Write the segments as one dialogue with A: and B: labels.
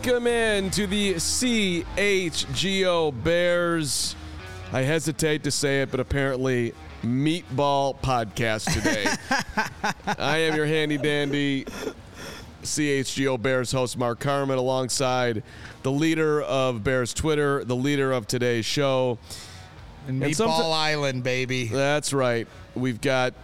A: Welcome in to the CHGO Bears. I hesitate to say it, but apparently meatball podcast today. I am your handy dandy CHGO Bears host Mark Carman, alongside the leader of Bears Twitter, the leader of today's show.
B: And Meatball Island, baby.
A: That's right. We've got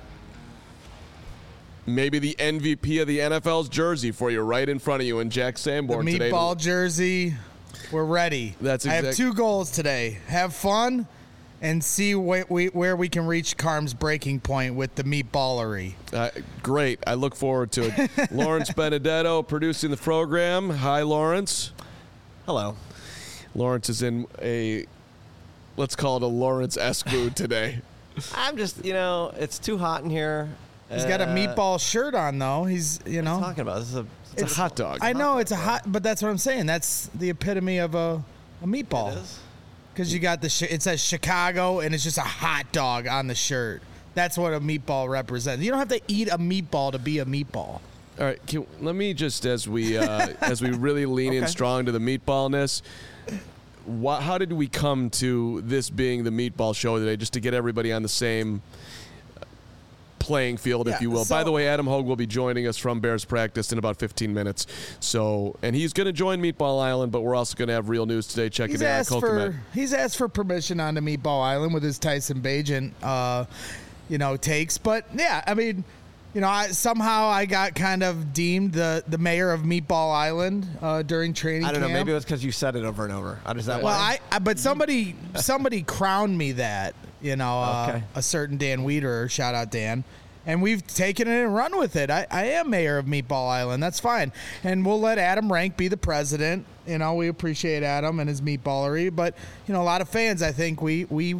A: maybe the MVP of the NFL's jersey for you right in front of you, and Jack Sanborn
B: the
A: today.
B: Meatball jersey. We're ready.
A: That's
B: I have two goals today. Have fun and see where we can reach Carm's breaking point with the meatballery.
A: Great. I look forward to it. Lawrence Benedetto producing the program. Hi, Lawrence.
C: Hello.
A: Lawrence is in a, let's call it a Lawrence-esque mood today.
C: I'm just, it's too hot in here.
B: He's got a meatball shirt on, though. He's,
C: What are you talking about? This is
A: It's a hot dog.
B: I know it's a hot, but that's what I'm saying. That's the epitome of a meatball.
C: It is?
B: Because you got it says Chicago, and it's just a hot dog on the shirt. That's what a meatball represents. You don't have to eat a meatball to be a meatball.
A: All right, let me just, as we really lean in strong to the meatballness, how did we come to this being the meatball show today, just to get everybody on the same playing field, if you will? By the way, Adam Hogue will be joining us from Bears practice in about 15 minutes. And he's going to join Meatball Island, but we're also going to have real news today. Check it out.
B: He's asked for permission on the Meatball Island with his Tyson Bagent, takes. But yeah, I mean, somehow I got kind of deemed the mayor of Meatball Island during training camp.
C: I don't know. Maybe it was because you said it over and over.
B: But somebody crowned me that. A certain Dan Weeder, shout out Dan, and we've taken it and run with it. I am mayor of Meatball Island. That's fine, and we'll let Adam Rank be the president. We appreciate Adam and his meatballery, but a lot of fans, I think we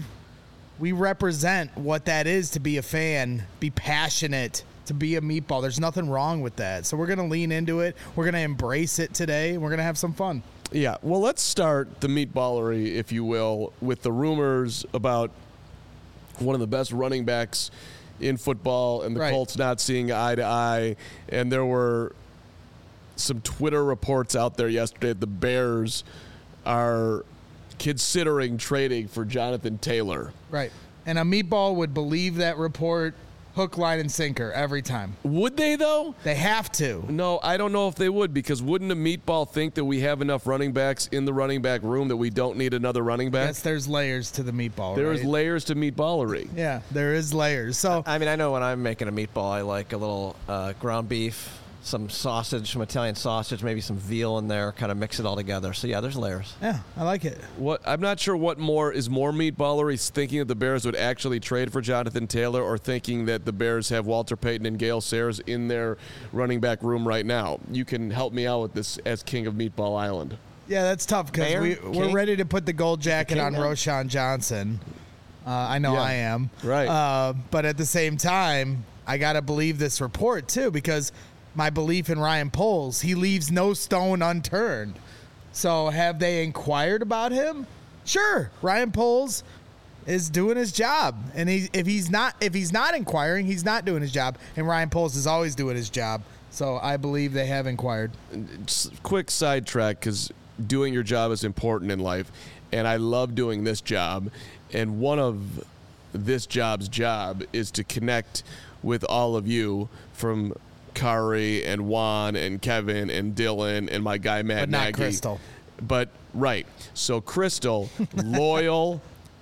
B: represent what that is to be a fan, be passionate, to be a meatball. There's nothing wrong with that. So we're going to lean into it. We're going to embrace it today. And we're going to have some fun.
A: Yeah. Well, let's start the meatballery, if you will, with the rumors about one of the best running backs in football and the Colts not seeing eye to eye. And there were some Twitter reports out there yesterday that the Bears are considering trading for Jonathan Taylor.
B: Right. And a meatball would believe that report hook, line, and sinker every time.
A: Would they, though?
B: They have to.
A: No, I don't know if they would, because wouldn't a meatball think that we have enough running backs in the running back room that we don't need another running back?
B: Yes, there's layers to the meatball,
A: There is layers to meatballery.
B: Yeah, there is layers. So
C: I mean, I know when I'm making a meatball, I like a little ground beef, some sausage, some Italian sausage, maybe some veal in there, kind of mix it all together. So, yeah, there's layers.
B: Yeah, I like it.
A: I'm not sure what more meatballery, thinking that the Bears would actually trade for Jonathan Taylor, or thinking that the Bears have Walter Payton and Gale Sayers in their running back room right now. You can help me out with this as king of Meatball Island.
B: Yeah, that's tough, because we're ready to put the gold jacket on Roschon Johnson. I know I am.
A: Right.
B: But at the same time, I got to believe this report, too, because my belief in Ryan Poles, he leaves no stone unturned. So have they inquired about him? Sure, Ryan Poles is doing his job, and if he's not inquiring, he's not doing his job. And Ryan Poles is always doing his job. So I believe they have inquired.
A: Just quick sidetrack, because doing your job is important in life, and I love doing this job. And one of this job's job is to connect with all of you, from Kari and Juan and Kevin and Dylan and my guy Matt
B: but not
A: Nagy.
B: Crystal.
A: But so Crystal, loyal,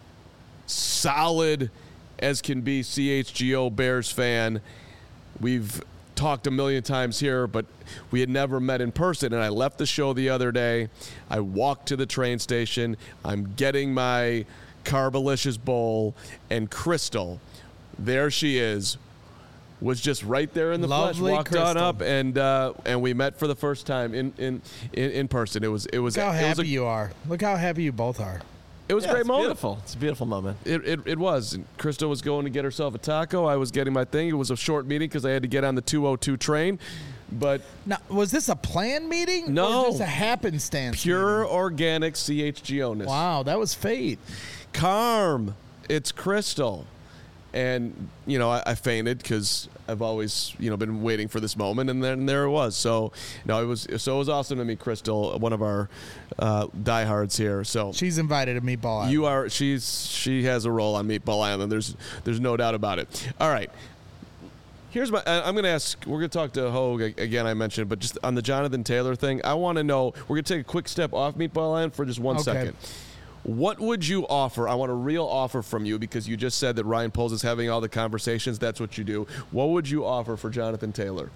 A: solid as can be CHGO Bears fan. We've talked a million times here, but we had never met in person. And I left the show the other day. I walked to the train station. I'm getting my Carbalicious bowl, and Crystal, there she is, was just right there in the flesh. Walked
B: Crystal
A: on up, and we met for the first time in person. It was
B: Look how happy you are. Look how happy you both are.
A: It was a great moment.
C: Beautiful. It's a beautiful moment.
A: It was. And Crystal was going to get herself a taco. I was getting my thing. It was a short meeting because I had to get on the 202 train. But
B: now, was this a planned meeting?
A: No.
B: Or just a happenstance
A: pure
B: meeting?
A: organic CHGO-ness.
B: Wow, that was fate.
A: Carm, it's Crystal. And, I fainted because I've always, been waiting for this moment, and then there it was. So, no, it was awesome to meet Crystal, one of our diehards here. So
B: she's invited to Meatball Island.
A: She has a role on Meatball Island. There's no doubt about it. All right. I'm going to ask, we're going to talk to Hogue again, I mentioned, but just on the Jonathan Taylor thing, I want to know, we're going to take a quick step off Meatball Island for just 1 second. What would you offer? I want a real offer from you because you just said that Ryan Poles is having all the conversations. That's what you do. What would you offer for Jonathan Taylor?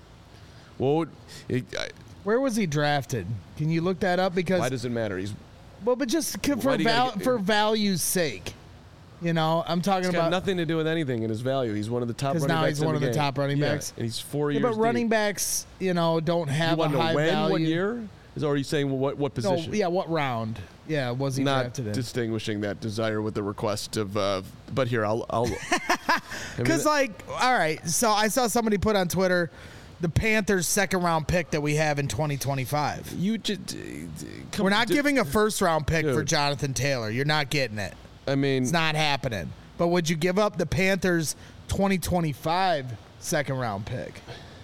B: Where was he drafted? Can you look that up? Because
A: why does it matter?
B: But just for value's sake. I'm talking about
A: nothing to do with anything in his value. He's one of the top running backs.
B: Now he's one of the top running backs.
A: And he's 4 years.
B: But running backs, don't have a high value.
A: What year? Or are you saying what position?
B: No, what round? Yeah, was he drafted in?
A: Not distinguishing that desire with the request of. But here, I'll.
B: Because all right. So I saw somebody put on Twitter, the Panthers' second-round pick that we have in 2025. We're not giving a first-round pick for Jonathan Taylor. You're not getting it.
A: I mean,
B: it's not happening. But would you give up the Panthers' 2025 second-round pick?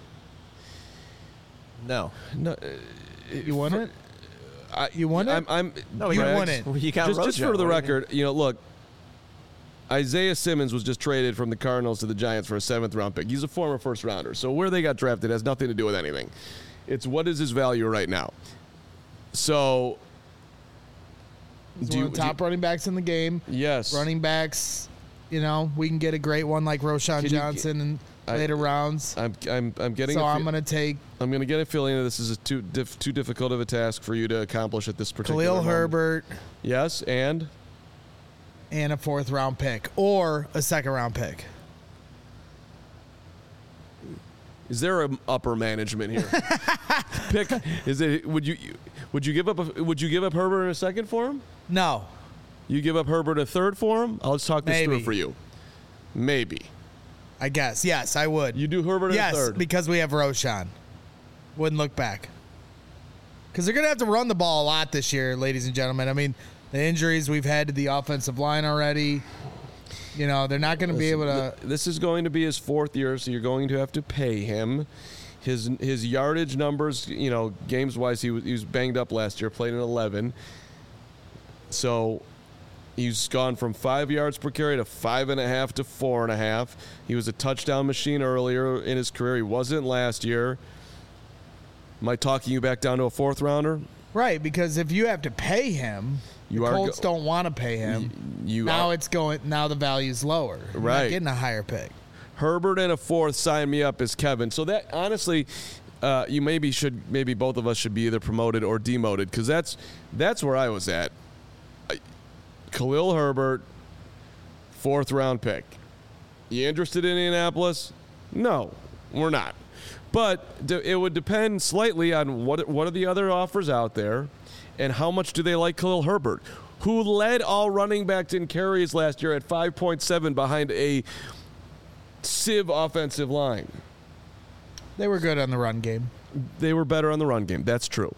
C: No.
B: You want it? You want it?
C: You
B: want it.
C: You got
A: just for the record, look, Isaiah Simmons was just traded from the Cardinals to the Giants for a 7th-round pick. He's a former first-rounder. So where they got drafted has nothing to do with anything. It's what is his value right now. So
B: he's one of the top running backs in the game.
A: Yes.
B: Running backs, we can get a great one like Roschon Johnson in later rounds.
A: I'm getting.
B: So I'm going to take.
A: I'm going to get a feeling that this is too difficult of a task for you to accomplish at this particular
B: Khalil
A: moment.
B: Herbert.
A: Yes, and
B: a 4th-round pick or a 2nd-round pick.
A: Is there an upper management here? Pick. Is it? Would you give up Herbert in a 2nd for him?
B: No.
A: You give up Herbert a 3rd for him? I'll just talk this through for you. Maybe.
B: I guess. Yes, I would.
A: You do Herbert in a 3rd?
B: Yes, because we have Roschon. Wouldn't look back. Because they're going to have to run the ball a lot this year, ladies and gentlemen. I mean, the injuries we've had to the offensive line already. They're not going to be able to.
A: This is going to be his 4th year, so you're going to have to pay him. His yardage numbers, games wise, he was banged up last year, played in 11. So he's gone from 5 yards per carry to 5.5 to 4.5. He was a touchdown machine earlier in his career. He wasn't last year. Am I talking you back down to a 4th rounder?
B: Right, because if you have to pay him, the Colts don't want to pay him. Now the value's lower. You're not getting a higher pick.
A: Herbert and a 4th, sign me up as Kevin. So that honestly, you maybe both of us should be either promoted or demoted because that's where I was at. Khalil Herbert, 4th-round pick. You interested in Indianapolis? No, we're not. But it would depend slightly on what are the other offers out there and how much do they like Khalil Herbert, who led all running backs in carries last year at 5.7 behind a sieve offensive line.
B: They were good on the run game.
A: They were better on the run game. That's true.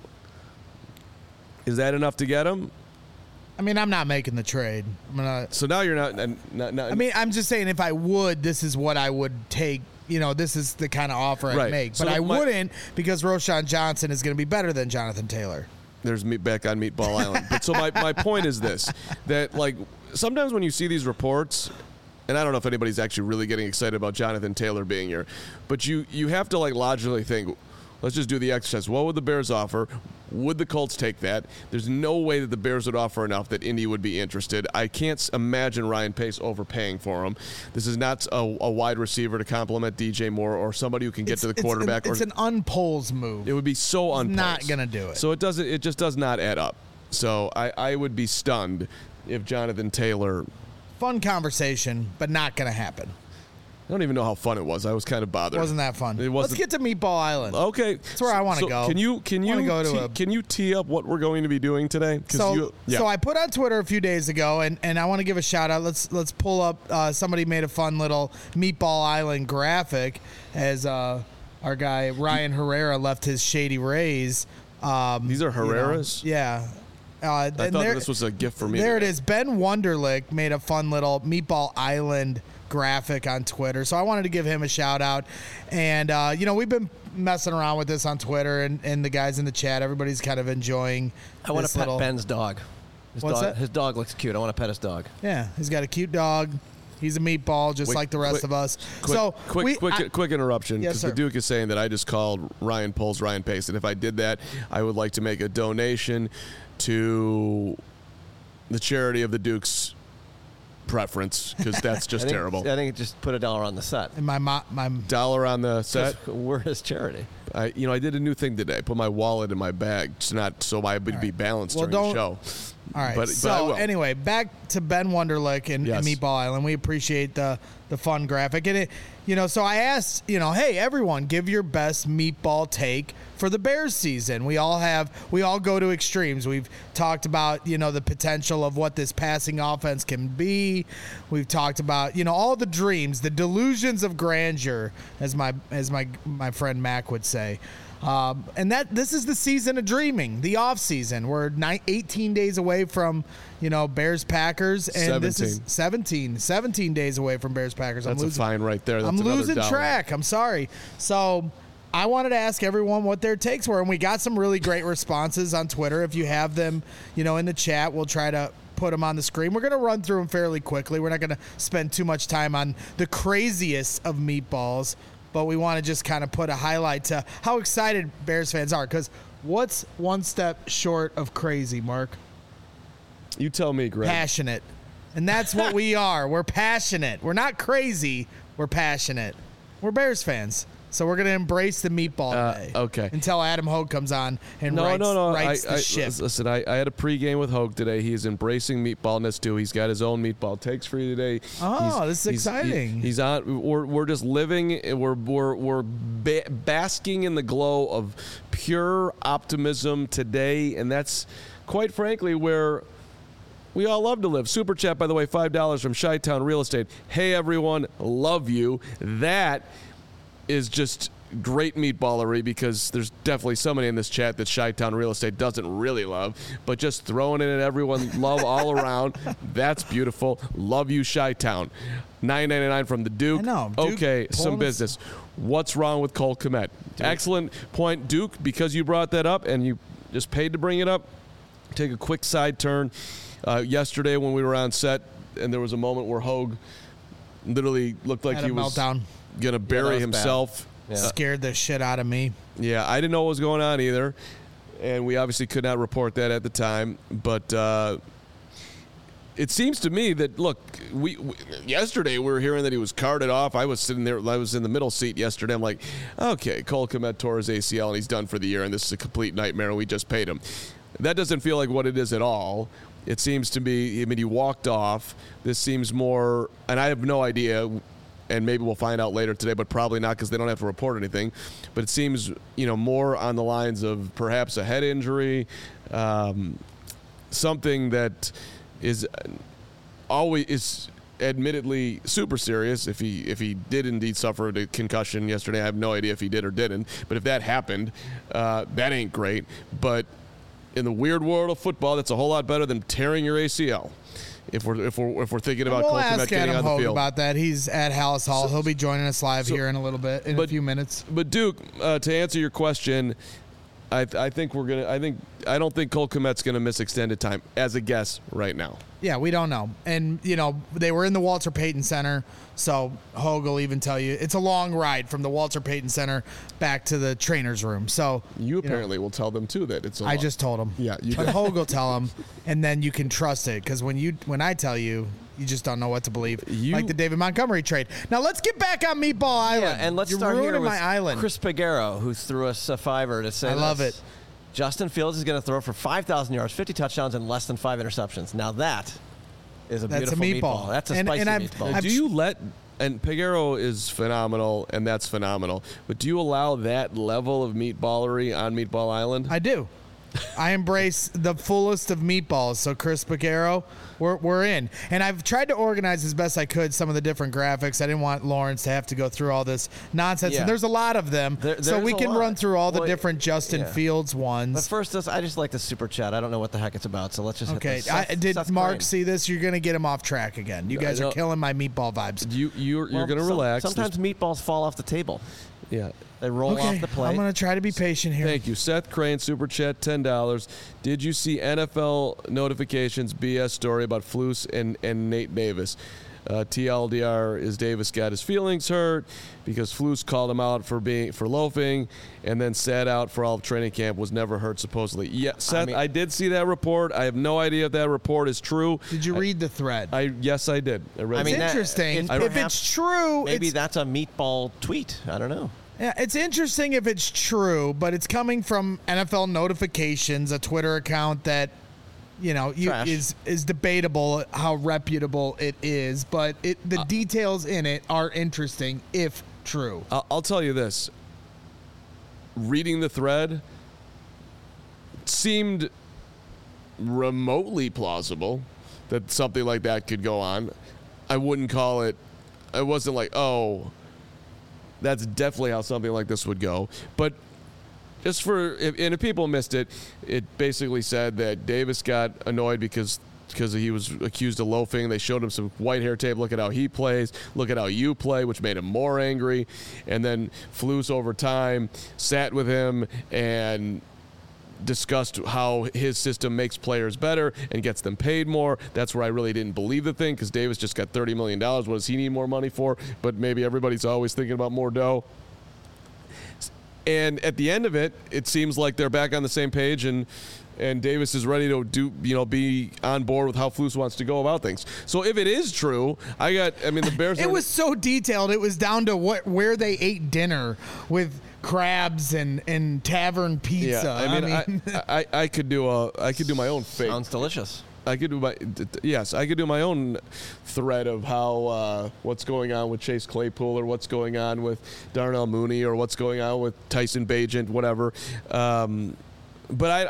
A: Is that enough to get him?
B: I mean, I'm not making the trade.
A: So now you're not.
B: I mean, I'm just saying if I would, this is what I would take. This is the kind of offer I'd make. But I wouldn't because Roschon Johnson is going to be better than Jonathan Taylor.
A: There's me back on Meatball Island. But so my point is this, that sometimes when you see these reports, and I don't know if anybody's actually really getting excited about Jonathan Taylor being here, but you have to logically think, let's just do the exercise. What would the Bears offer? Would the Colts take that? There's no way that the Bears would offer enough that Indy would be interested. I can't imagine Ryan Pace overpaying for him. This is not a wide receiver to complement DJ Moore or somebody who can get to the quarterback.
B: It's an unpolls move.
A: It would be so unpolls.
B: Not going to do it.
A: So it just does not add up. So I would be stunned if Jonathan Taylor.
B: Fun conversation, but not going to happen.
A: I don't even know how fun it was. I was kind of bothered.
B: It wasn't that fun. Let's get to Meatball Island.
A: Okay,
B: that's where I want to go.
A: Can you tee up what we're going to be doing today?
B: So I put on Twitter a few days ago, and I want to give a shout out. Let's pull up. Somebody made a fun little Meatball Island graphic as our guy Ryan Herrera left his Shady Rays.
A: These are Herreras?
B: Yeah.
A: I thought this was a gift for me.
B: There it is. Ben Wunderlich made a fun little Meatball Island graphic on Twitter. So I wanted to give him a shout out. And, we've been messing around with this on Twitter and the guys in the chat. Everybody's kind of enjoying
C: I want to pet Ben's dog. His dog looks cute. I want to pet his dog.
B: Yeah, he's got a cute dog. He's a meatball, just like the rest of us.
A: Quick interruption, because the Duke is saying that I just called Ryan Poles Ryan Pace, and if I did that, I would like to make a donation to the charity of the Duke's preference, because that's just terrible.
C: I think just put $1 on the set.
B: And my
A: $1 on the set.
C: We're his charity.
A: I did a new thing today. I put my wallet in my bag, so I would be balanced during the show.
B: All right. But anyway, back to Ben Wonderlick and Meatball Island. We appreciate the fun graphic. And so I asked, hey, everyone, give your best meatball take for the Bears season. We all go to extremes. We've talked about, the potential of what this passing offense can be. We've talked about, all the dreams, the delusions of grandeur, as my friend Mac would say. And this is the season of dreaming, the off season. We're 18 days away from, Bears Packers, and 17. This is 17 days away from Bears Packers.
A: That's a fine right there.
B: I'm losing track. I'm sorry. So I wanted to ask everyone what their takes were, and we got some really great responses on Twitter. If you have them, in the chat, we'll try to put them on the screen. We're going to run through them fairly quickly. We're not going to spend too much time on the craziest of meatballs, but we want to just kind of put a highlight to how excited Bears fans are. Because what's one step short of crazy, Mark?
A: You tell me, Greg.
B: Passionate. And that's what we are. We're passionate. We're not crazy. We're passionate. We're Bears fans. So we're going to embrace the meatball today.
A: Okay.
B: Until Adam Hogue comes on and writes the ship.
A: Listen, I had a pregame with Hogue today. He's embracing meatballness too. He's got his own meatball takes for you today.
B: Oh, this is exciting.
A: He's on. We're just living. We're basking in the glow of pure optimism today, and that's quite frankly where we all love to live. Super chat, by the way, $5 from Chi-Town Real Estate. Hey everyone, love you. That is just great meatballery, because there's definitely somebody in this chat that Chi-Town Real Estate doesn't really love, but just throwing it at everyone, love all around. That's beautiful. Love you, Chi-Town. $9.99 from the Duke.
B: I know.
A: Okay, some business. What's wrong with Cole Kmet? Excellent point, Duke, because you brought that up and you just paid to bring it up. Take a quick side turn. Yesterday when we were on set, and there was a moment where Hogue literally looked like he was going to bury himself.
B: Yeah. Scared the shit out of me.
A: Yeah, I didn't know what was going on either, and we obviously could not report that at the time. But it seems to me that, look, we yesterday we were hearing that he was carted off. I was sitting there. I was in the middle seat yesterday. I'm like, okay, Cole Kmet tore his ACL, and he's done for the year, and this is a complete nightmare, and we just paid him. That doesn't feel like what it is at all. It seems to be, he walked off. This seems more, and I have no idea, and maybe we'll find out later today, but probably not, because they don't have to report anything. But it seems, more on the lines of perhaps a head injury, something that is admittedly super serious. If he did indeed suffer a concussion yesterday, I have no idea if he did or didn't. But if that happened, that ain't great. But in the weird world of football, that's a whole lot better than tearing your ACL. If we're thinking about Cole Kmet getting on the field.
B: About that. He's at Hallis Hall. He'll be joining us live here in a little bit, in a few minutes.
A: But Duke, to answer your question, I don't think Cole Kmet's gonna miss extended time as a guess right now.
B: Yeah, we don't know. And, they were in the Walter Payton Center, so Hogue will even tell you it's a long ride from the Walter Payton Center back to the trainer's room. So
A: you apparently will tell them, too, that it's a
B: I just told him.
A: Yeah, you
B: But Hogue will tell them, and then you can trust it, because when I tell you, you just don't know what to believe. Like the David Montgomery trade. Now, let's get back on Meatball Island.
C: Yeah, and let's start here with my island. Chris Pagero, who threw us a $5 to say
B: I love it.
C: Justin Fields is going to throw for 5,000 yards, 50 touchdowns, and less than 5 interceptions. Now that is a beautiful meatball. That's a spicy meatball.
A: Do you and Pagero is phenomenal, and that's phenomenal, but do you allow that level of meatballery on Meatball Island?
B: I do. I embrace the fullest of meatballs. So Chris Picaro, we're in. And I've tried to organize as best I could some of the different graphics. I didn't want Lawrence to have to go through all this nonsense.
C: Yeah.
B: And there's a lot of them. So we can run through all the different Justin Fields ones.
C: But first, I just like the super chat. I don't know what the heck it's about, so let's just hit this.
B: Did
C: Seth
B: Mark
C: Crane.
B: see this? You're going to get him off track again. You guys are killing my meatball vibes.
A: You're going to relax.
C: Sometimes meatballs fall off the table.
A: Yeah.
C: They roll off the plate.
B: I'm going to try to be patient here.
A: Thank you. Seth Crane, Super Chat, $10. Did you see NFL notifications BS story about Flus and Nate Davis? TLDR is Davis got his feelings hurt because Flus called him out for loafing and then sat out for all of training camp, was never hurt supposedly. Yeah, Seth, I did see that report. I have no idea if that report is true.
B: Did you read the thread?
A: Yes, I did. I read
B: it's interesting. If it's true,
C: maybe that's a meatball tweet. I don't know.
B: Yeah, it's interesting if it's true, but it's coming from NFL Notifications, a Twitter account that, is debatable how reputable it is, but the details in it are interesting if true.
A: I'll tell you this. Reading the thread seemed remotely plausible that something like that could go on. I wouldn't call it, I wasn't like, oh, that's definitely how something like this would go. But just if people missed it, it basically said that Davis got annoyed because he was accused of loafing. They showed him some white hair tape. Look at how he plays. Look at how you play, which made him more angry. And then Flus over time sat with him and discussed how his system makes players better and gets them paid more. That's where I really didn't believe the thing, because Davis just got $30 million. What does he need more money for? But maybe everybody's always thinking about more dough. And at the end of it, it seems like they're back on the same page, and Davis is ready to be on board with how Flus wants to go about things. So if it is true, the Bears.
B: It was so detailed. It was down to where they ate dinner with crabs and tavern pizza.
A: Yeah, I could do my own fake.
C: Sounds delicious.
A: I could do my own thread of how what's going on with Chase Claypool, or what's going on with Darnell Mooney, or what's going on with Tyson Bagent, whatever. But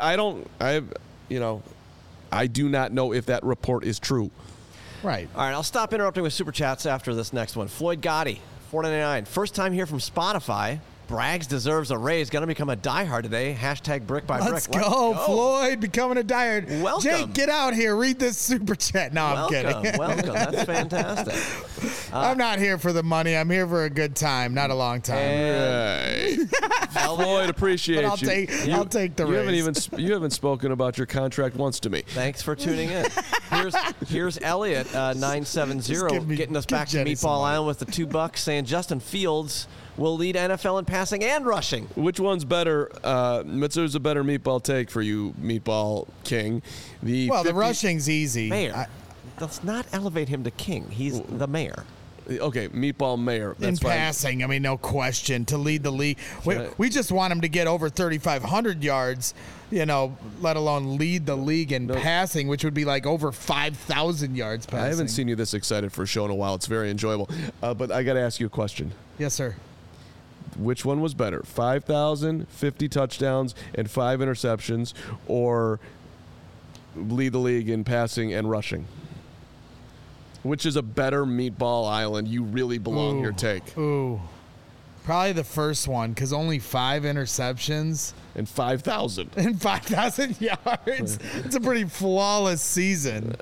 A: I do not know if that report is true.
B: Right.
C: All right, I'll stop interrupting with Super Chats after this next one. Floyd Gotti, $4.99. First time here from Spotify. Braggs deserves a raise. Going to become a diehard today. Hashtag brick by brick.
B: Let's go, Floyd, becoming a diehard.
C: Welcome.
B: Jake, get out here. Read this Super Chat. No, I'm kidding.
C: Welcome. That's fantastic.
B: I'm not here for the money. I'm here for a good time, not a long time.
A: Floyd, appreciate you.
B: I'll take the raise.
A: You haven't spoken about your contract once to me.
C: Thanks for tuning in. Here's Elliot, 970, getting us back to Meatball Island with the $2, saying Justin Fields will lead NFL in passing and rushing.
A: Which one's better? There's a better meatball take for you, Meatball King.
B: The rushing's easy.
C: Mayor. Let's not elevate him to king. He's the mayor.
A: Okay, Meatball Mayor. That's
B: in passing, fine. No question. To lead the league. We just want him to get over 3,500 yards, let alone lead the league in passing, which would be like over 5,000 yards passing.
A: I haven't seen you this excited for a show in a while. It's very enjoyable. But I got to ask you a question.
B: Yes, sir.
A: Which one was better, 5,000, 50 touchdowns, and 5 interceptions, or lead the league in passing and rushing? Which is a better Meatball Island? You really belong here take.
B: Probably the first one, because only 5 interceptions.
A: And 5,000.
B: And 5,000 yards. It's a pretty flawless season.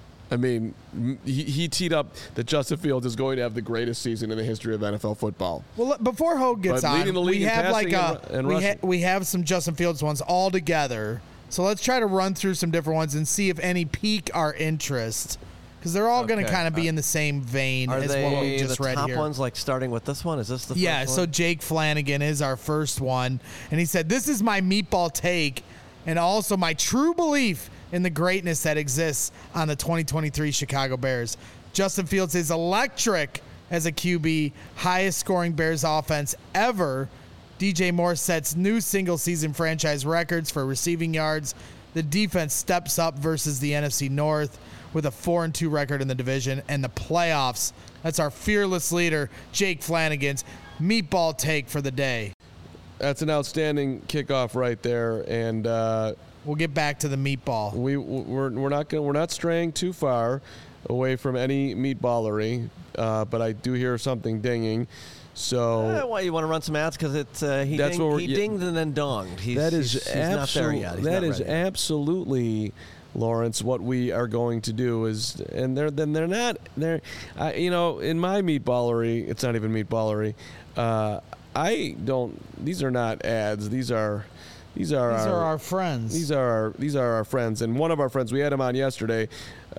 A: He teed up that Justin Fields is going to have the greatest season in the history of NFL football.
B: Well, before Hogue gets on, we have we have some Justin Fields ones all together. So let's try to run through some different ones and see if any pique our interest, because they're all going to kind of be in the same vein as what we just read here.
C: Are they the top ones, like starting with this one? Is this the first one?
B: Yeah, so Jake Flanagan is our first one, and he said, "This is my meatball take, and also my true belief in the greatness that exists on the 2023 Chicago Bears. Justin Fields is electric as a QB, highest scoring Bears offense ever. DJ Moore sets new single-season franchise records for receiving yards. The defense steps up versus the NFC North with a 4-2 record in the division and the playoffs." That's our fearless leader, Jake Flanagan's meatball take for the day.
A: That's an outstanding kickoff right there, and
B: We'll get back to the meatball.
A: We're not straying too far away from any meatballery, but I do hear something dinging. So
C: why you want to run some ads? Because he dinged and then donged. He's not there yet.
A: That is absolutely, Lawrence, what we are going to do is, and they're not in my meatballery. It's not even meatballery. These are not ads. These are
B: our friends.
A: These are our friends, and one of our friends, we had him on yesterday,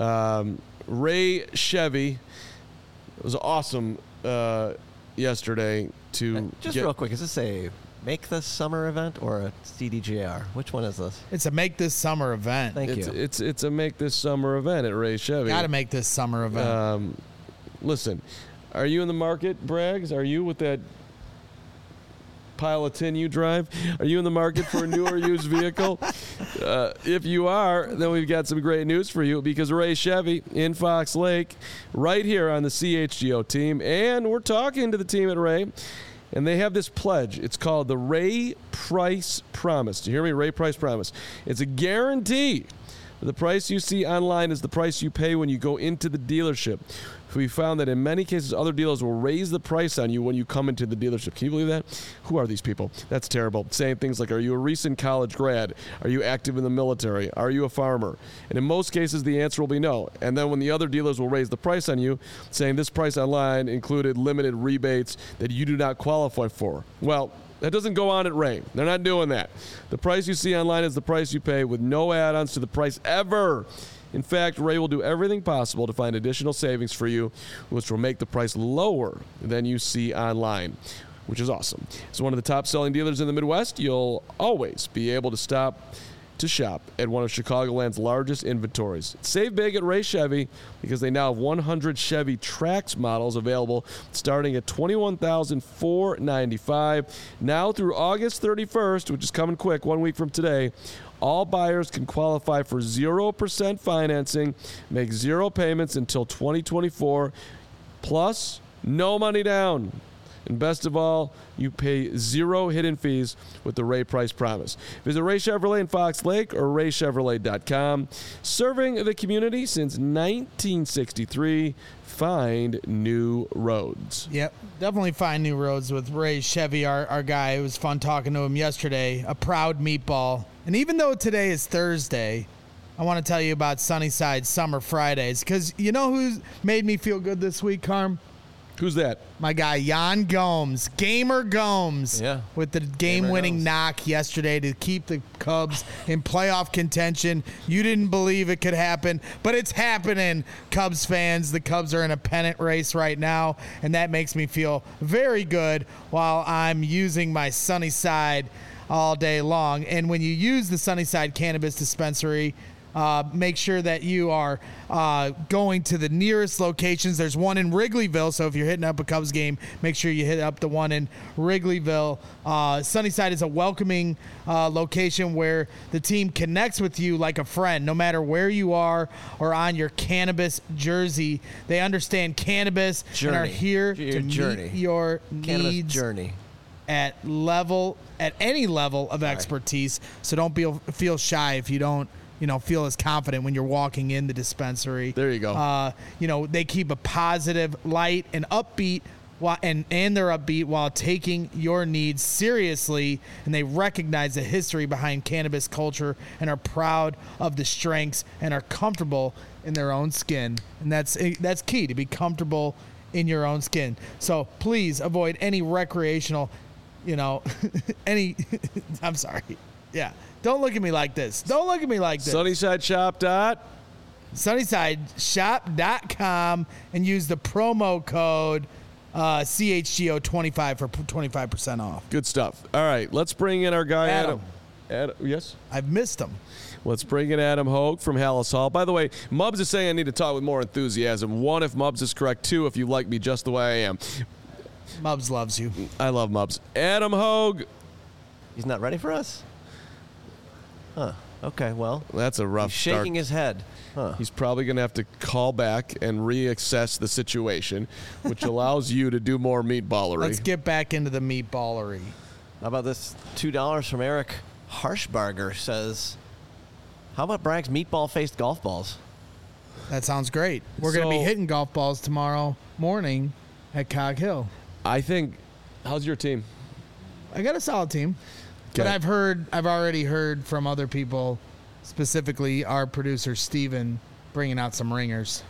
A: Ray Chevy. It was awesome yesterday to
C: real quick. Is this a Make This Summer event or a CDJR? Which one is this?
B: It's a Make This Summer event.
C: Thank you.
A: It's a Make This Summer event at Ray Chevy.
B: Got to make this summer event.
A: Listen, are you in the market, Braggs? Are you with that pile of tin you drive? Are you in the market for a new or used vehicle? If you are, then we've got some great news for you, because Ray Chevy in Fox Lake, right here on the CHGO team, and we're talking to the team at Ray, and they have this pledge. It's called the Ray Price Promise. Do you hear me? Ray Price Promise. It's a guarantee. The price you see online is the price you pay when you go into the dealership. We found that in many cases, other dealers will raise the price on you when you come into the dealership. Can you believe that? Who are these people? That's terrible. Saying things like, are you a recent college grad? Are you active in the military? Are you a farmer? And in most cases, the answer will be no. And then when the other dealers will raise the price on you, saying this price online included limited rebates that you do not qualify for. Well, that doesn't go on at Ray. They're not doing that. The price you see online is the price you pay, with no add-ons to the price ever. In fact, Ray will do everything possible to find additional savings for you, which will make the price lower than you see online, which is awesome. As one of the top-selling dealers in the Midwest, you'll always be able to stop to shop at one of Chicagoland's largest inventories. Save big at Ray Chevy, because they now have 100 Chevy Trax models available starting at $21,495. Now through August 31st, which is coming quick, 1 week from today, all buyers can qualify for 0% financing, make 0 payments until 2024, plus no money down. And best of all, you pay 0 hidden fees with the Ray Price Promise. Visit Ray Chevrolet in Fox Lake or raychevrolet.com. Serving the community since 1963. Find new roads.
B: Yep, definitely find new roads with Ray Chevy, our guy. It was fun talking to him yesterday. A proud meatball. And even though today is Thursday, I want to tell you about Sunnyside Summer Fridays, because you know who's made me feel good this week, Carm?
A: Who's that?
B: My guy, Jan Gomes, Gamer Gomes, with the game-winning knock yesterday to keep the Cubs in playoff contention. You didn't believe it could happen, but it's happening, Cubs fans. The Cubs are in a pennant race right now, and that makes me feel very good while I'm using my Sunnyside all day long. And when you use the Sunnyside Cannabis Dispensary, make sure that you are going to the nearest locations. There's one in Wrigleyville, so if you're hitting up a Cubs game, make sure you hit up the one in Wrigleyville. Sunnyside is a welcoming location where the team connects with you like a friend, no matter where you are or on your cannabis jersey. They understand cannabis and are here to meet your needs
C: journey
B: at any level of expertise. So don't feel shy if you don't feel as confident when you're walking in the dispensary.
A: There you go.
B: They keep a positive, light, and upbeat, and they're upbeat while taking your needs seriously, and they recognize the history behind cannabis culture and are proud of the strengths and are comfortable in their own skin. And that's key, to be comfortable in your own skin. So please avoid any recreational, I'm sorry. Yeah. Don't look at me like this. SunnysideShop.com and use the promo code CHGO25 for 25% off.
A: Good stuff. All right, let's bring in our guy, Adam. Yes?
B: I've missed him.
A: Let's bring in Adam Hogue from Hallis Hall. By the way, Mubs is saying I need to talk with more enthusiasm. 1, if Mubs is correct. 2, if you like me just the way I am.
B: Mubs loves you.
A: I love Mubs. Adam Hogue.
C: He's not ready for us? Huh. Okay, well.
A: That's a rough
C: start. He's shaking his head.
A: Huh. He's probably going to have to call back and reassess the situation, which allows you to do more meatballery.
B: Let's get back into the meatballery.
C: How about this $2 from Eric Harshbarger says, How about Bragg's meatball-faced golf balls?
B: That sounds great. We're going to be hitting golf balls tomorrow morning at Cog Hill.
A: I think. How's your team?
B: I got a solid team. Okay. But I've already heard from other people, specifically our producer Steven, bringing out some ringers.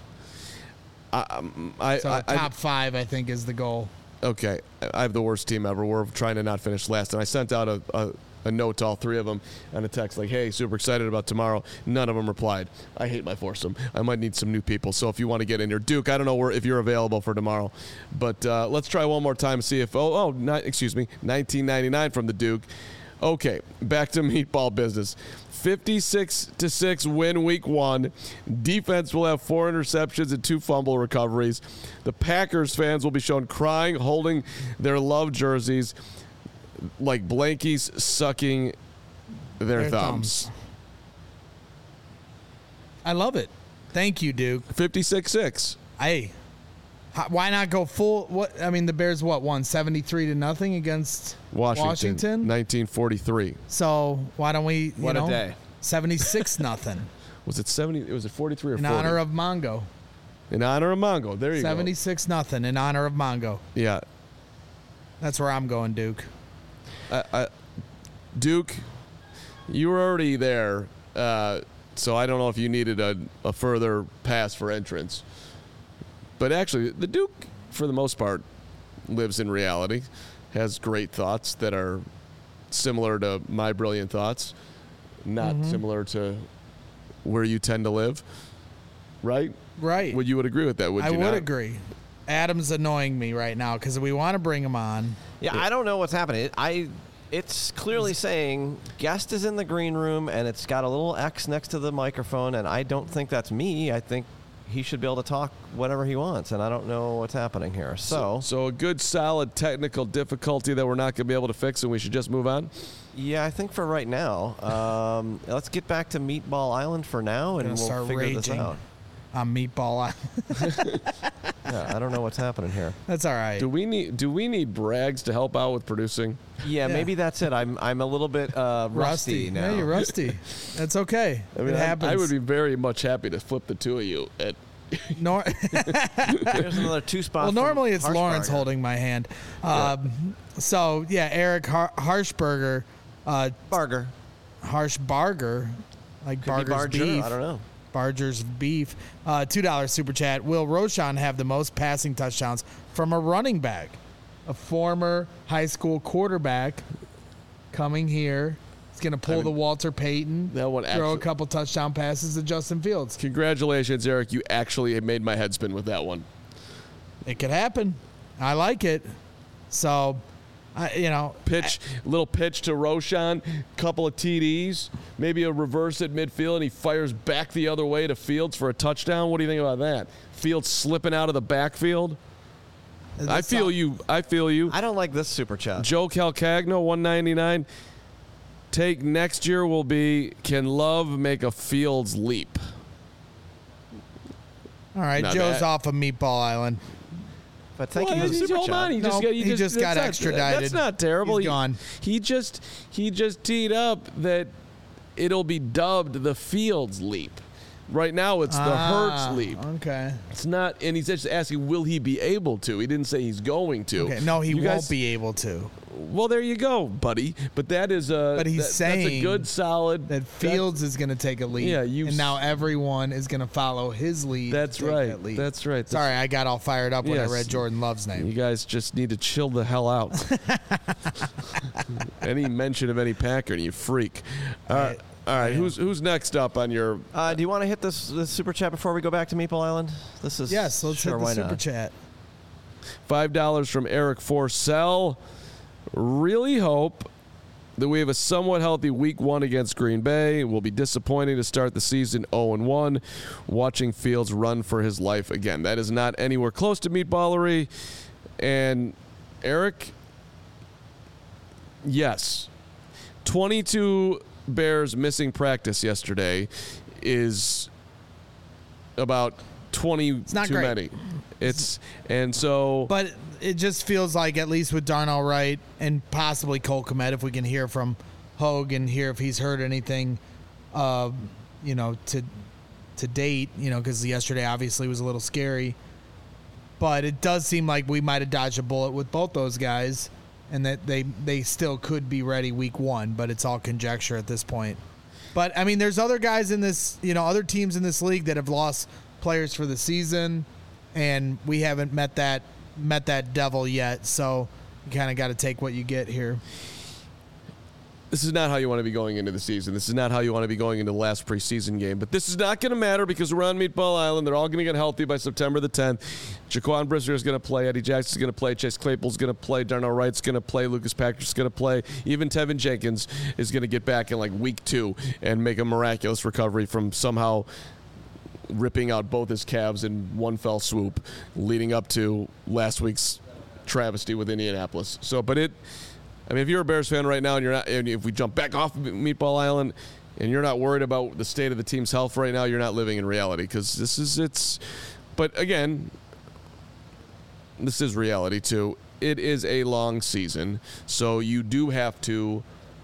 B: Top 5, I think, is the goal.
A: Okay. I have the worst team ever. We're trying to not finish last. And I sent out a note to all 3 of them and a text like, hey, super excited about tomorrow. None of them replied. I hate my foursome. I might need some new people. So if you want to get in here, Duke, I don't know if you're available for tomorrow. But let's try one more time and see if, 1999 from the Duke. Okay, back to meatball business. 56-6 win week 1. Defense will have 4 interceptions and 2 fumble recoveries. The Packers fans will be shown crying, holding their love jerseys like blankies sucking their thumbs.
B: I love it. Thank you, Duke.
A: 56-6.
B: Hey, why not go full? What I mean, the Bears won 73-0 against Washington,
A: 1943.
B: So why don't we?
C: What a day.
B: 76-0.
A: Was it 70? It was a 43 or 40?
B: In honor of Mongo.
A: In honor of Mongo. There you
B: 76-0 in honor of Mongo.
A: Yeah.
B: That's where I'm going, Duke.
A: Duke, you were already there, so I don't know if you needed a further pass for entrance. But actually, the Duke, for the most part, lives in reality, has great thoughts that are similar to my brilliant thoughts, not similar to where you tend to live, right?
B: Right.
A: You would agree with that, would you not?
B: I would agree. Adam's annoying me right now because we want to bring him on.
C: Yeah, I don't know what's happening. It's clearly saying guest is in the green room, and it's got a little X next to the microphone, and I don't think that's me. I think he should be able to talk whatever he wants, and I don't know what's happening here. So
A: a good, solid technical difficulty that we're not going to be able to fix, and we should just move on?
C: Yeah, I think for right now. Let's get back to Meatball Island for now, and we'll figure this out.
B: On Meatball Island.
C: Yeah, I don't know what's happening here.
B: That's all right.
A: Do we need Braggs to help out with producing?
C: Yeah, maybe that's it. I'm a little bit rusty now.
B: Yeah, you're rusty. That's okay.
A: I mean,
B: it happens.
A: I would be very much happy to flip the 2 of you at.
C: Here's another 2 spots.
B: Well, normally it's Lawrence
C: Harshbarger
B: holding my hand. So yeah, Eric Harshbarger.
C: Barger.
B: Harshbarger, like Barger's beef.
C: I don't know.
B: Barger's beef. $2 super chat. Will Roschon have the most passing touchdowns from a running back? A former high school quarterback coming here. He's going to pull the Walter Payton.
A: That one
B: throw a couple touchdown passes to Justin Fields.
A: Congratulations, Eric. You actually made my head spin with that one.
B: It could happen. I like it. So,
A: little pitch to Roschon, couple of TDs, maybe a reverse at midfield, and he fires back the other way to Fields for a touchdown. What do you think about that? Fields slipping out of the backfield. I feel you. I
C: don't like this super chat.
A: Joe Calcagno, $1.99. Take next year will be, can Love make a Fields leap?
B: All right, Joe's off of Meatball Island.
C: But thank you.
A: Hold on. He just got extradited. That's not terrible.
B: He's gone.
A: He just teed up that it'll be dubbed the Fields leap. Right now, it's the Hurts leap.
B: Okay.
A: It's not, and he's just asking, will he be able to? He didn't say he's going to.
B: Okay. No, he won't be able to.
A: Well, there you go, buddy. But that is a.
B: But he's saying
A: that's a good, solid.
B: That Fields is going to take a lead.
A: Yeah,
B: and now everyone is going to follow his lead.
A: That's right. That's right.
B: Sorry, I got all fired up when I read Jordan Love's name.
A: You guys just need to chill the hell out. Any mention of any Packer, and you freak. All right, who's next up on your?
C: Do you want to hit this super chat before we go back to Meatball Island? This is
B: yes. Let's hit the super chat.
A: $5 from Eric Forsell. Really hope that we have a somewhat healthy week 1 against Green Bay. It will be disappointing to start the season 0-1, watching Fields run for his life again. That is not anywhere close to meatballery. And Eric, yes, 22 Bears missing practice yesterday is about 20 too many.
B: But it just feels like, at least with Darnell Wright and possibly Cole Kmet, if we can hear from Hogue and hear if he's heard anything to date, because yesterday obviously was a little scary. But it does seem like we might have dodged a bullet with both those guys, and that they still could be ready week 1, but it's all conjecture at this point. But, I mean, there's other guys in this, other teams in this league that have lost players for the season, and we haven't met that devil yet, so you kind of got to take what you get here.
A: This is not how you want to be going into the season. This is not how you want to be going into the last preseason game. But this is not going to matter because we're on Meatball Island. They're all going to get healthy by September the 10th. Jaquan Brisker is going to play. Eddie Jackson's going to play. Chase Claypool's going to play. Darnell Wright's going to play. Lucas Patrick's going to play. Even Tevin Jenkins is going to get back in like week 2 and make a miraculous recovery from somehow ripping out both his calves in one fell swoop, leading up to last week's travesty with Indianapolis. I mean, if you're a Bears fan right now and if we jump back off Meatball Island and you're not worried about the state of the team's health right now, you're not living in reality because but again, this is reality too. It is a long season, so you do have to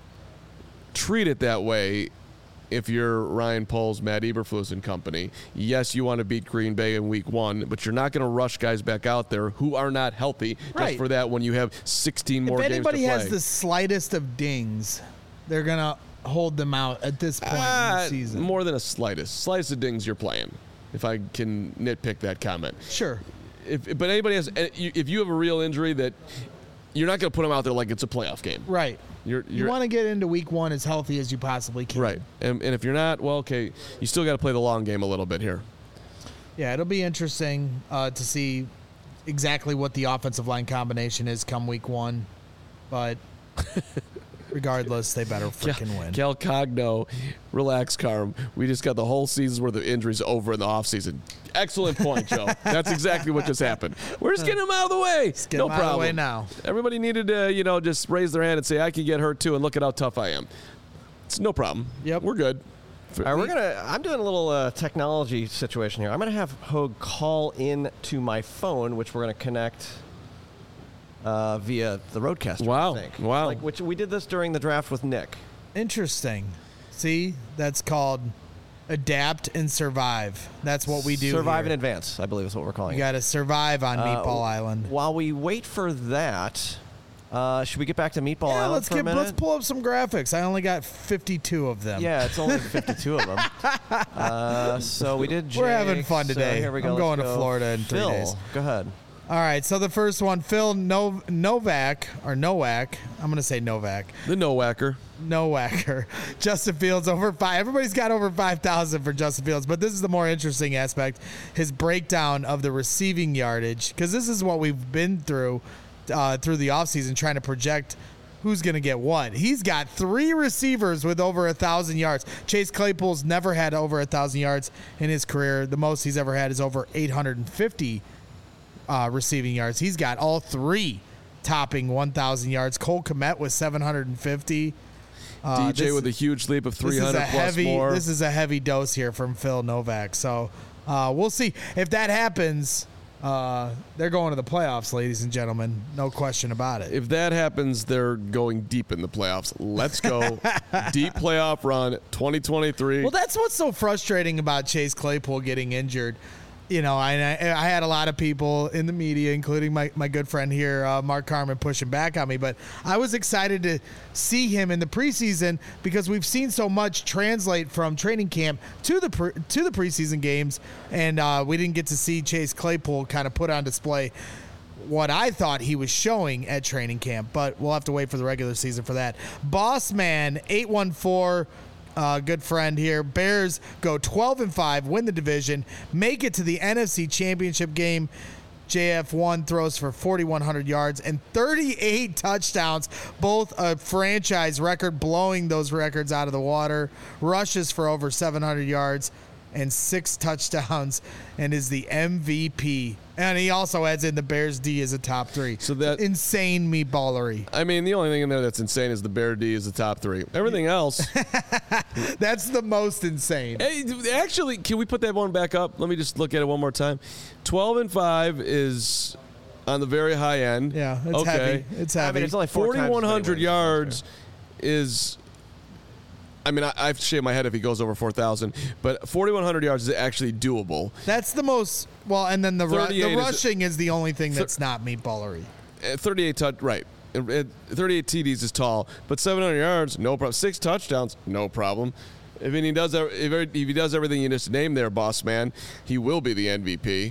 A: treat it that way. If you're Ryan Poles, Matt Eberflus and company, yes, you want to beat Green Bay in week 1, but you're not going to rush guys back out there who are not healthy just for that when you have 16 more games to play.
B: If anybody has the slightest of dings, they're going to hold them out at this point in the season.
A: More than a slightest of dings you're playing, if I can nitpick that comment.
B: Sure.
A: But anybody has, if you have a real injury that you're not going to put them out there like it's a playoff game.
B: Right.
A: You
B: want to get into week 1 as healthy as you possibly can.
A: Right. And if you're not, well, okay, you still got to play the long game a little bit here.
B: Yeah, it'll be interesting to see exactly what the offensive line combination is come week 1. But regardless, they better freaking win.
A: Cal Cogno, relax, Carm. We just got the whole season's worth of injuries over in the offseason. Excellent point, Joe. That's exactly what just happened. We're just getting them out of the way. No problem. Out of the way
B: now.
A: Everybody needed to, just raise their hand and say, I can get hurt too, and look at how tough I am. It's no problem.
B: Yep.
A: We're good.
C: All right, I'm doing a little technology situation here. I'm going to have Hogue call in to my phone, which we're going to connect via the Roadcaster.
A: Wow.
C: I think.
A: Wow.
C: Which we did this during the draft with Nick.
B: Interesting. See, that's called adapt and survive. That's what we do.
C: Survive
B: here.
C: in advance, I believe is what we're calling
B: it. You got to survive on Meatball Island.
C: While we wait for that, should we get back to Meatball Island for a minute?
B: Let's pull up some graphics. I only got 52 of them.
C: Yeah, it's only 52 of them. So we did Jake.
B: We're having fun today.
C: So here we go.
B: I'm going to Florida in 3 days.
C: Go ahead.
B: All right, so the first one, Phil Nowak. I'm going to say Novak.
A: The Nowacker.
B: Justin Fields over 5. Everybody's got over 5,000 for Justin Fields, but this is the more interesting aspect, his breakdown of the receiving yardage, because this is what we've been through the offseason, trying to project who's going to get what. He's got 3 receivers with over 1,000 yards. Chase Claypool's never had over 1,000 yards in his career. The most he's ever had is over 850 receiving yards. He's got all 3 topping 1,000 yards. Cole Kmet with 750.
A: DJ with a huge leap of 300 plus more.
B: This is a heavy dose here from Phil Novak. So we'll see. If that happens, they're going to the playoffs, ladies and gentlemen. No question about it.
A: If that happens, they're going deep in the playoffs. Let's go. Deep playoff run, 2023.
B: Well, that's what's so frustrating about Chase Claypool getting injured. I had a lot of people in the media, including my good friend here, Mark Carman, pushing back on me. But I was excited to see him in the preseason because we've seen so much translate from training camp to the preseason games, and we didn't get to see Chase Claypool kind of put on display what I thought he was showing at training camp. But we'll have to wait for the regular season for that. Bossman 814. Good friend here. Bears go 12-5, win the division, make it to the NFC Championship game. JF1 throws for 4,100 yards and 38 touchdowns, both a franchise record, blowing those records out of the water. Rushes for over 700 yards and 6 touchdowns and is the MVP. And he also adds in the Bears D as a top 3. So that insane meatballery.
A: I mean, the only thing in there that's insane is the Bear D is the top 3. Everything else,
B: that's the most insane.
A: Hey, actually, can we put that one back up? Let me just look at it one more time. 12-5 is on the very high end.
B: Yeah, it's heavy. It's heavy.
C: I mean, it's only
A: 4,100 yards is I mean, I've shaved my head if he goes over 4,000, but 4,100 yards is actually doable.
B: That's the most. Well, and then the
A: 38
B: rushing is the only thing that's not meatballery.
A: 38 right. 38 TDs is tall, but 700 yards, no problem. 6 touchdowns, no problem. If he does everything you just named there, boss man, he will be the MVP.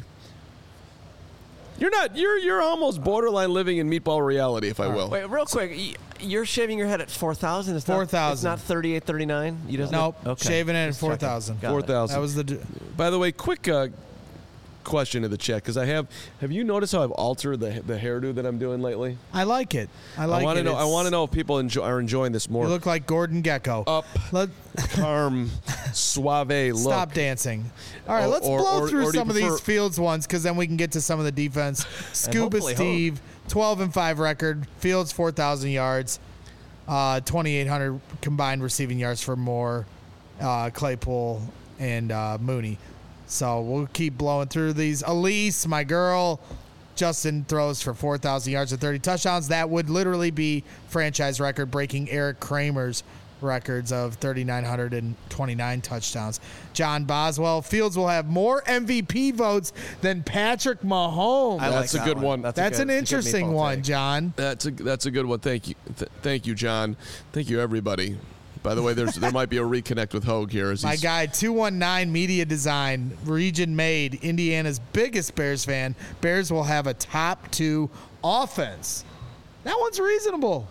A: You're almost borderline living in meatball reality, if I will.
C: Wait, real quick. You're shaving your head at 4,000?
B: 4,000.
C: It's not 38, 39?
B: Nope. Okay. Shaving it at 4,000.
A: 4,000.
B: That was
A: By the way, quick question to the chat, because have you noticed how I've altered the hairdo that I'm doing lately?
B: I like it. I want
A: to know if people are enjoying this more.
B: You look like Gordon Gekko.
A: Calm, suave look.
B: Stop dancing. All right, let's blow through some of these Fields ones, because then we can get to some of the defense. Scuba Steve, 12-5 record. Fields 4,000 yards, 2,800 combined receiving yards for Moore, Claypool, and Mooney. So we'll keep blowing through these. Elise, my girl, Justin throws for 4,000 yards and 30 touchdowns. That would literally be franchise record, breaking Eric Kramer's records of 3,929 touchdowns. John Boswell, Fields will have more MVP votes than Patrick Mahomes.
A: That's a good one.
B: That's an interesting one, John.
A: That's a good one. Thank you. Thank you, John. Thank you, everybody. By the way, there might be a reconnect with Hogue here.
B: My guy, 219 Media Design, region made, Indiana's biggest Bears fan. Bears will have a top 2 offense. That one's reasonable.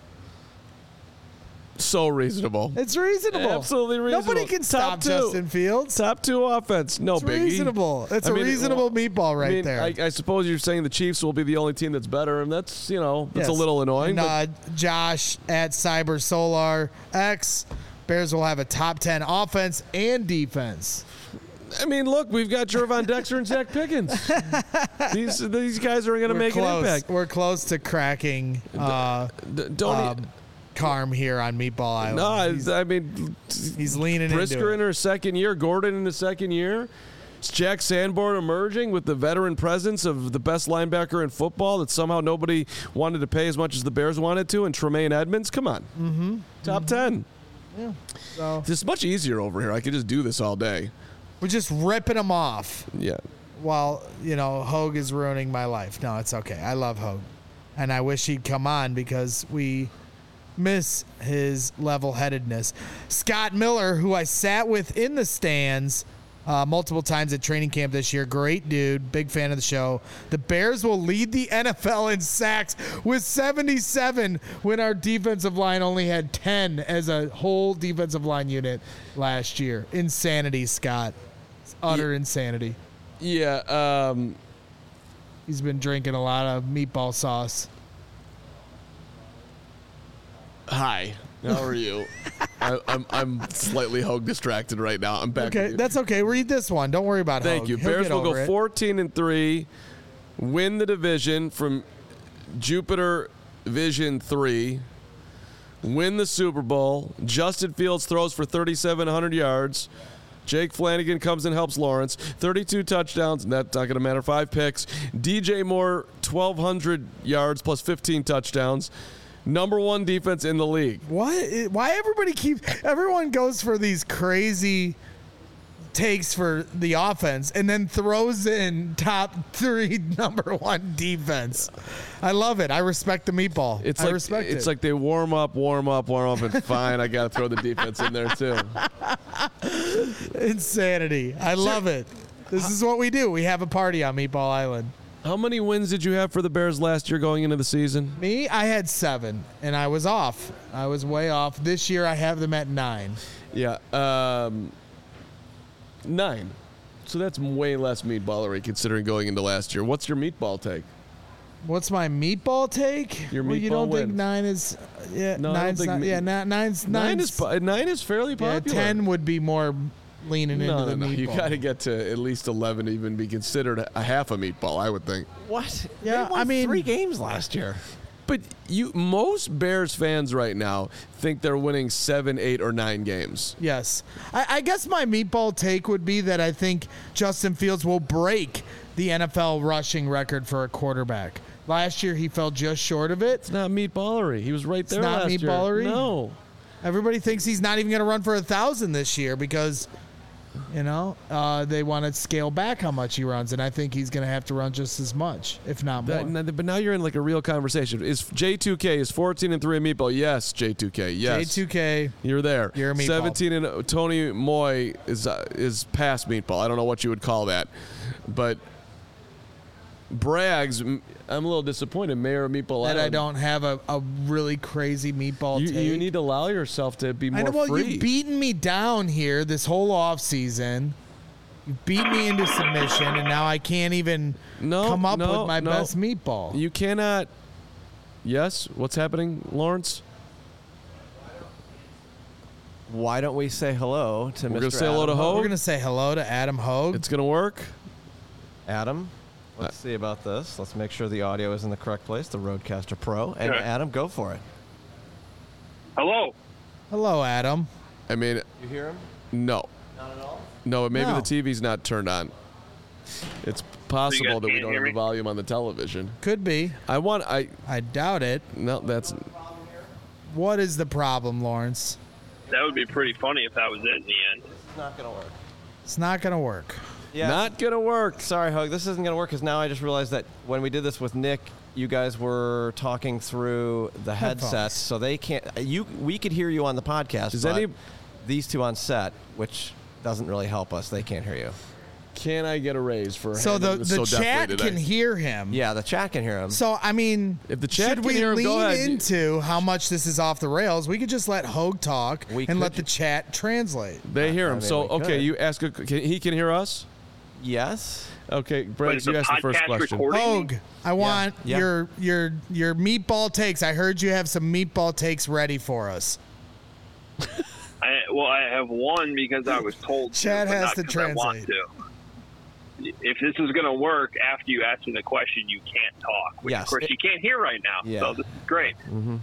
A: So reasonable.
B: It's reasonable.
A: Absolutely reasonable.
B: Nobody can stop Justin Fields.
A: Top 2 offense. No
B: it's
A: biggie.
B: Reasonable. It's a reasonable meatball right there.
A: I suppose you're saying the Chiefs will be the only team that's better, and that's a little annoying.
B: And, Josh at Cyber Solar X, Bears will have a top 10 offense and defense.
A: I mean, look, we've got Jervon Dexter and Zach Pickens. These guys are going to make an impact.
B: We're close to cracking. Carm here on Meatball Island.
A: No,
B: he's leaning into it.
A: Brisker in her second year, Gordon in his second year. It's Jack Sanborn emerging with the veteran presence of the best linebacker in football that somehow nobody wanted to pay as much as the Bears wanted to, and Tremaine Edmonds. Come on.
B: Mm-hmm.
A: Top 10.
B: Yeah. So
A: it's much easier over here. I could just do this all day.
B: We're just ripping them off.
A: Yeah.
B: While, Hogue is ruining my life. No, it's okay. I love Hogue. And I wish he'd come on because we miss his level-headedness. Scott Miller, who I sat with in the stands multiple times at training camp this year. Great dude. Big fan of the show. The Bears will lead the NFL in sacks with 77 when our defensive line only had 10 as a whole defensive line unit last year. Insanity, Scott. It's utter insanity.
A: Yeah.
B: He's been drinking a lot of meatball sauce.
A: Hi, how are you? I'm slightly Hogue distracted right now. I'm back.
B: Okay, that's okay. Read this one. Don't worry about it.
A: Thank you. Bears will go 14-3, win the division from Jupiter Vision 3, win the Super Bowl. Justin Fields throws for 3,700 yards. Jake Flanagan comes and helps Lawrence. 32 touchdowns, and that's not going to matter. 5 picks. DJ Moore, 1,200 yards plus 15 touchdowns. Number 1 defense in the league.
B: What? Why everyone goes for these crazy takes for the offense and then throws in top 3 number 1 defense? I love it. I respect the meatball. I respect it.
A: It's like they warm up, and fine, I got to throw the defense in there too.
B: Insanity. I love it. This is what we do. We have a party on Meatball Island.
A: How many wins did you have for the Bears last year going into the season?
B: Me? I had 7, and I was off. I was way off. This year, I have them at 9.
A: Yeah, 9. So that's way less meatballery considering going into last year. What's your meatball take?
B: What's my meatball take?
A: Your meatball
B: you don't
A: wins.
B: think 9 is? Yeah,
A: no,
B: 9's not. Yeah, 9's
A: 9 is fairly popular.
B: Yeah, 10 would be more leaning into the meatball.
A: You got to get to at least 11 to even be considered a half a meatball, I would think.
C: What?
B: Yeah,
C: they won 3 games last year.
A: But most Bears fans right now think they're winning 7, 8, or 9 games.
B: Yes. I guess my meatball take would be that I think Justin Fields will break the NFL rushing record for a quarterback. Last year, he fell just short of it.
A: It's not meatballery. He was right there last year.
B: It's not meatballery?
A: No.
B: Everybody thinks he's not even going to run for 1,000 this year because, they want to scale back how much he runs, and I think he's going to have to run just as much, if not more.
A: But now you're in like a real conversation. Is J2K is 14-3 in meatball? Yes, J2K. Yes,
B: J2K.
A: You're there.
B: You're a meatball.
A: 17 and Tony Moy is past meatball. I don't know what you would call that, but Braggs, I'm a little disappointed. Mayor of Meatball
B: That
A: Island.
B: I don't have a really crazy meatball take.
A: You need to allow yourself to be more
B: I know, well,
A: free.
B: you've beaten me down here this whole offseason. You beat me into submission, and now I can't even come up with my best meatball.
A: You cannot. Yes? What's happening, Lawrence?
C: Why don't we say hello to Mr.
A: We're going to say hello to Hogue?
B: We're going to say hello to Adam Hogue.
A: It's going to work?
C: Adam, let's see about this. Let's make sure the audio is in the correct place, the Rodecaster Pro. And Adam, go for it.
D: Hello.
B: Hello, Adam.
A: I mean,
C: You hear him?
A: no.
C: Not at all?
A: No, maybe
B: No.
A: the TV's not turned on. It's possible that we
D: can't
A: don't
D: hear
A: have the
D: me?
A: volume on the television.
B: Could be.
A: I
B: I doubt it.
A: no, that's
B: What is the problem, Lawrence?
D: That would be pretty funny if that was it in the end.
C: It's not going to work.
B: It's not going to work.
C: Yeah.
A: not gonna work.
C: Sorry, Hogue. This isn't going to work because now I just realized that when we did this with Nick, you guys were talking through the
B: Headphones.
C: headsets, so they can't. We could hear you on the podcast.
A: Does
C: but
A: any-
C: these two on set, which doesn't really help us, they can't hear you.
A: Can I get a raise for
B: So
A: handling
B: the
A: this so deftly
B: chat
A: today?
B: can hear him.
C: Yeah, the chat can hear him.
B: So, I mean,
A: If the chat
B: should
A: can
B: we
A: hear him,
B: lean
A: go ahead.
B: into how much this is off the rails? We could just let Hogue talk
C: We
B: and let
C: could.
B: the chat translate.
A: They hear
C: I
A: him.
C: mean,
A: So
C: we
A: okay,
C: could.
A: you ask. He can hear us.
C: Yes.
A: Okay,
D: But
A: Briggs,
D: is
A: you
D: the
A: asked the first
D: podcast
A: question.
D: recording?
B: Hogue, I want
C: Yeah.
B: your meatball takes. I heard you have some meatball takes ready for us.
D: I have one because I was told
B: Chad
D: to, but
B: has
D: not
B: to
D: 'cause I want
B: translate.
D: to. If this is going to work after you ask me the question, you can't talk, which
C: Yes.
D: of course you can't hear right now.
C: Yeah.
D: So this is great.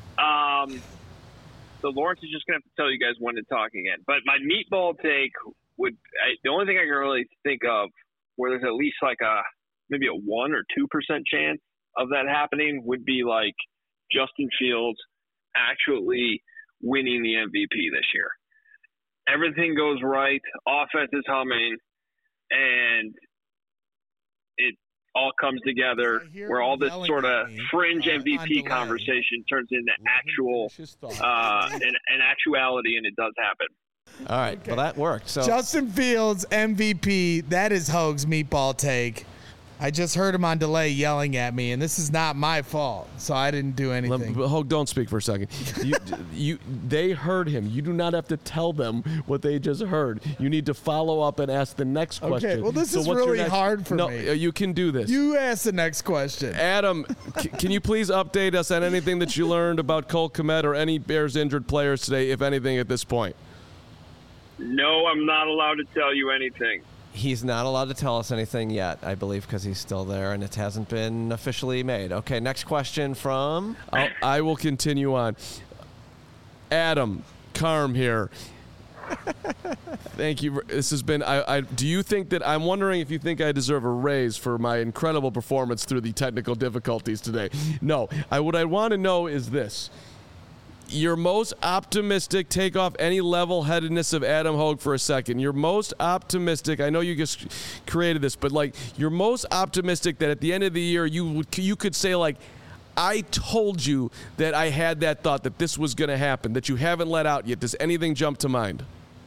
D: So Lawrence is just going to have to tell you guys when to talk again. But my meatball take the only thing I can really think of where there's at least like maybe a 1 or 2% chance of that happening would be like Justin Fields actually winning the MVP this year. Everything goes right, offense is humming, and it all comes together
B: I hear
D: where all
B: him
D: this
B: yelling
D: sort
B: at
D: of
B: me,
D: fringe
B: on
D: MVP
B: delay.
D: conversation turns into actual an actuality, and it does happen.
C: All right. Well, that worked. So
B: Justin Fields, MVP. That is Hogue's meatball take. I just heard him on delay yelling at me, and this is not my fault, so I didn't do anything.
A: Hogue, don't speak for a second. They heard him. You do not have to tell them what they just heard. You need to follow up and ask the next question.
B: well, this is
A: what's your
B: really hard for
A: no,
B: me.
A: you can do this.
B: You ask the next question.
A: Adam, can you please update us on anything that you learned about Cole Kmet or any Bears injured players today, if anything, at this point?
D: No, I'm not allowed to tell you anything.
C: he's not allowed to tell us anything yet, I believe, because he's still there and it hasn't been officially made. Okay, next question from...
A: I will continue on. Adam Carm here. Thank you. This has been. Do you think that I'm wondering if you think I deserve a raise for my incredible performance through the technical difficulties today? No. What I want to know is this. Your most optimistic, take off any level-headedness of Adam Hogue for a second. Your most optimistic, I know you just created this, but like you're most optimistic that at the end of the year you could say like, I told you that I had that thought that this was going to happen, that you haven't let out yet. Does anything jump to mind?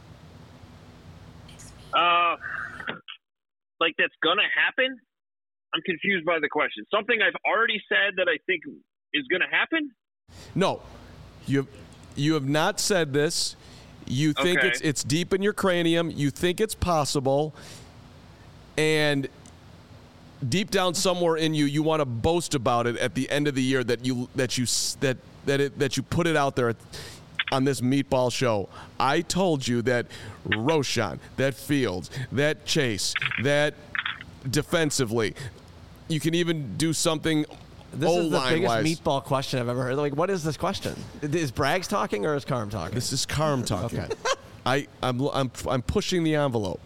D: Like that's going to happen? I'm confused by the question. Something I've already said that I think is going to happen?
A: No. You have not said this. You think
D: Okay.
A: it's deep in your cranium. You think it's possible. And deep down somewhere in you, you want to boast about it at the end of the year that you put it out there on this meatball show. I told you that Roschon, that Fields, that Chase, that defensively, you can even do something.
C: This is the biggest
A: O-line-wise.
C: meatball question I've ever heard. Like, what is this question? Is Braggs talking or is Carm talking?
A: This is Carm talking.
C: Okay.
A: I'm pushing the envelope.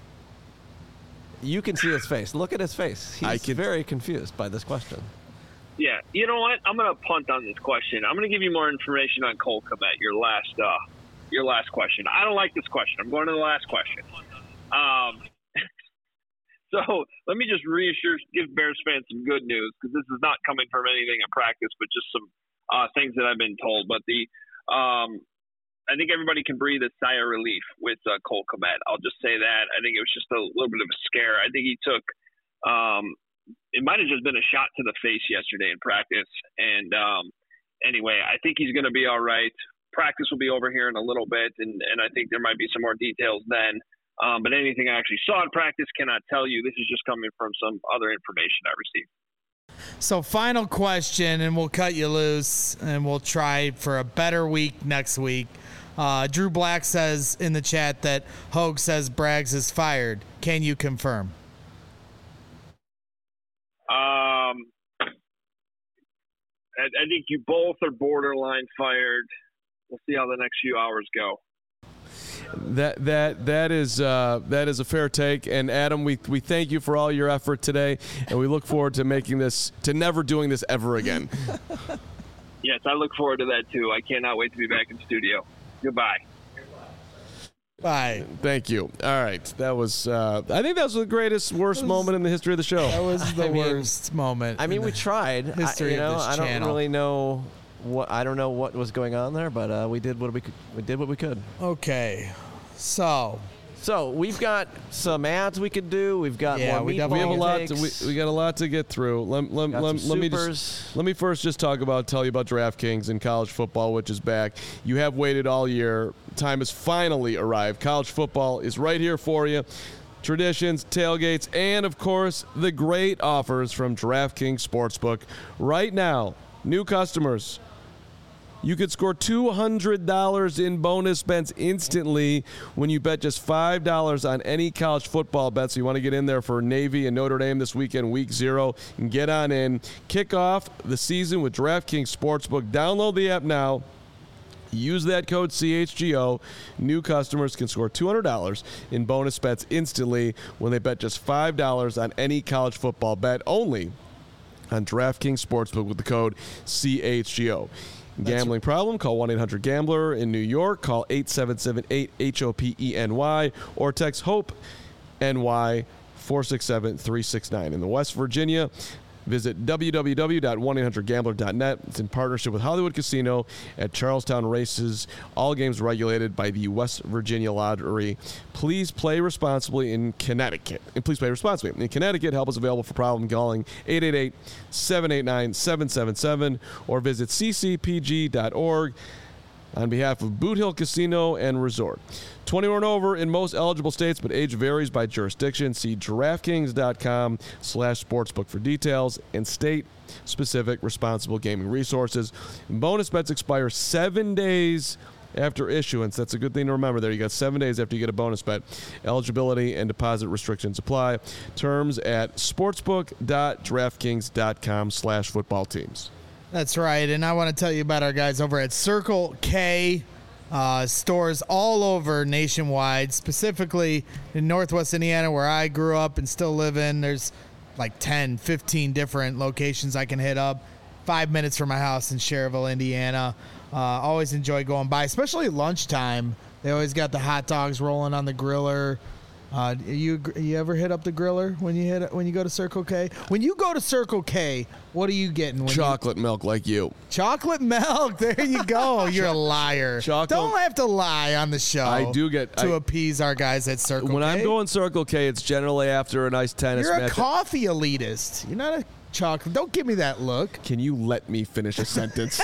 C: You can see his face. Look at his face. He's very confused by this question.
D: Yeah, you know what? I'm going to punt on this question. I'm going to give you more information on Cole Kmet, your last question. I don't like this question. I'm going to the last question. So let me just give Bears fans some good news, because this is not coming from anything in practice, but just some things that I've been told. But I think everybody can breathe a sigh of relief with Cole Kmet. I'll just say that. I think it was just a little bit of a scare. I think he took it might have just been a shot to the face yesterday in practice. And anyway, I think he's going to be all right. Practice will be over here in a little bit, and I think there might be some more details then. But anything I actually saw in practice cannot tell you. This is just coming from some other information I received.
B: So final question, and we'll cut you loose, and we'll try for a better week next week. Drew Black says in the chat that Hogue says Braggs is fired. Can you confirm?
D: I think you both are borderline fired. We'll see how the next few hours go.
A: That is a fair take, and Adam, we thank you for all your effort today, and we look forward to never doing this ever again.
D: Yes, I look forward to that too. I cannot wait to be back in studio. Goodbye.
B: Bye.
A: Thank you. All right, that was. I think that was the worst moment in the history of the show.
B: That was the worst moment.
C: I mean, we tried.
B: History of this channel.
C: I don't really know. I don't know what was going on there, but we did what we could.
B: Okay, so
A: we've got some ads we could do. We've got more. We have a lot. We got a lot to get through. Let me first just tell you about DraftKings and college football, which is back. You have waited all year. Time has finally arrived. College football is right here for you. Traditions, tailgates, and of course the great offers from DraftKings Sportsbook right now. New customers, you could score $200 in bonus bets instantly when you bet just $5 on any college football bet. So you want to get in there for Navy and Notre Dame this weekend, week 0, and get on in. Kick off the season with DraftKings Sportsbook. Download the app now. Use that code CHGO. New customers can score $200 in bonus bets instantly when they bet just $5 on any college football bet only on DraftKings Sportsbook with the code CHGO. Gambling problem? Call 1-800-GAMBLER. In New York, call 877-8-HOPENY or text HOPE-NY 467-369. In the West Virginia, visit www.1800gambler.net. It's in partnership with Hollywood Casino at Charlestown Races. All games regulated by the West Virginia Lottery. Please play responsibly in Connecticut. And please play responsibly. In Connecticut, help is available for problem calling 888-789-777 or visit ccpg.org on behalf of Boot Hill Casino and Resort. 21 and over in most eligible states, but age varies by jurisdiction. See DraftKings.com/sportsbook for details and state-specific responsible gaming resources. And bonus bets expire 7 days after issuance. That's a good thing to remember there. You got 7 days after you get a bonus bet. Eligibility and deposit restrictions apply. Terms at sportsbook.draftkings.com/football teams.
B: That's right, and I want to tell you about our guys over at Circle K. Stores all over nationwide, specifically in Northwest Indiana where I grew up and still live in. There's like 10, 15 different locations I can hit up. 5 minutes from my house in Cherville, Indiana. Always enjoy going by, especially lunchtime. They always got the hot dogs rolling on the griller. You ever hit up the griller when you go to Circle K? When you go to Circle K, what are you getting?
A: Chocolate milk, like you.
B: Chocolate milk. There you go. You're a liar. Don't have to lie on the show.
A: I do get
B: to appease our guys at Circle K.
A: When I'm going Circle K, it's generally after a nice tennis match.
B: You're a coffee elitist. You're not a chocolate. Don't give me that look.
A: Can you let me finish a sentence?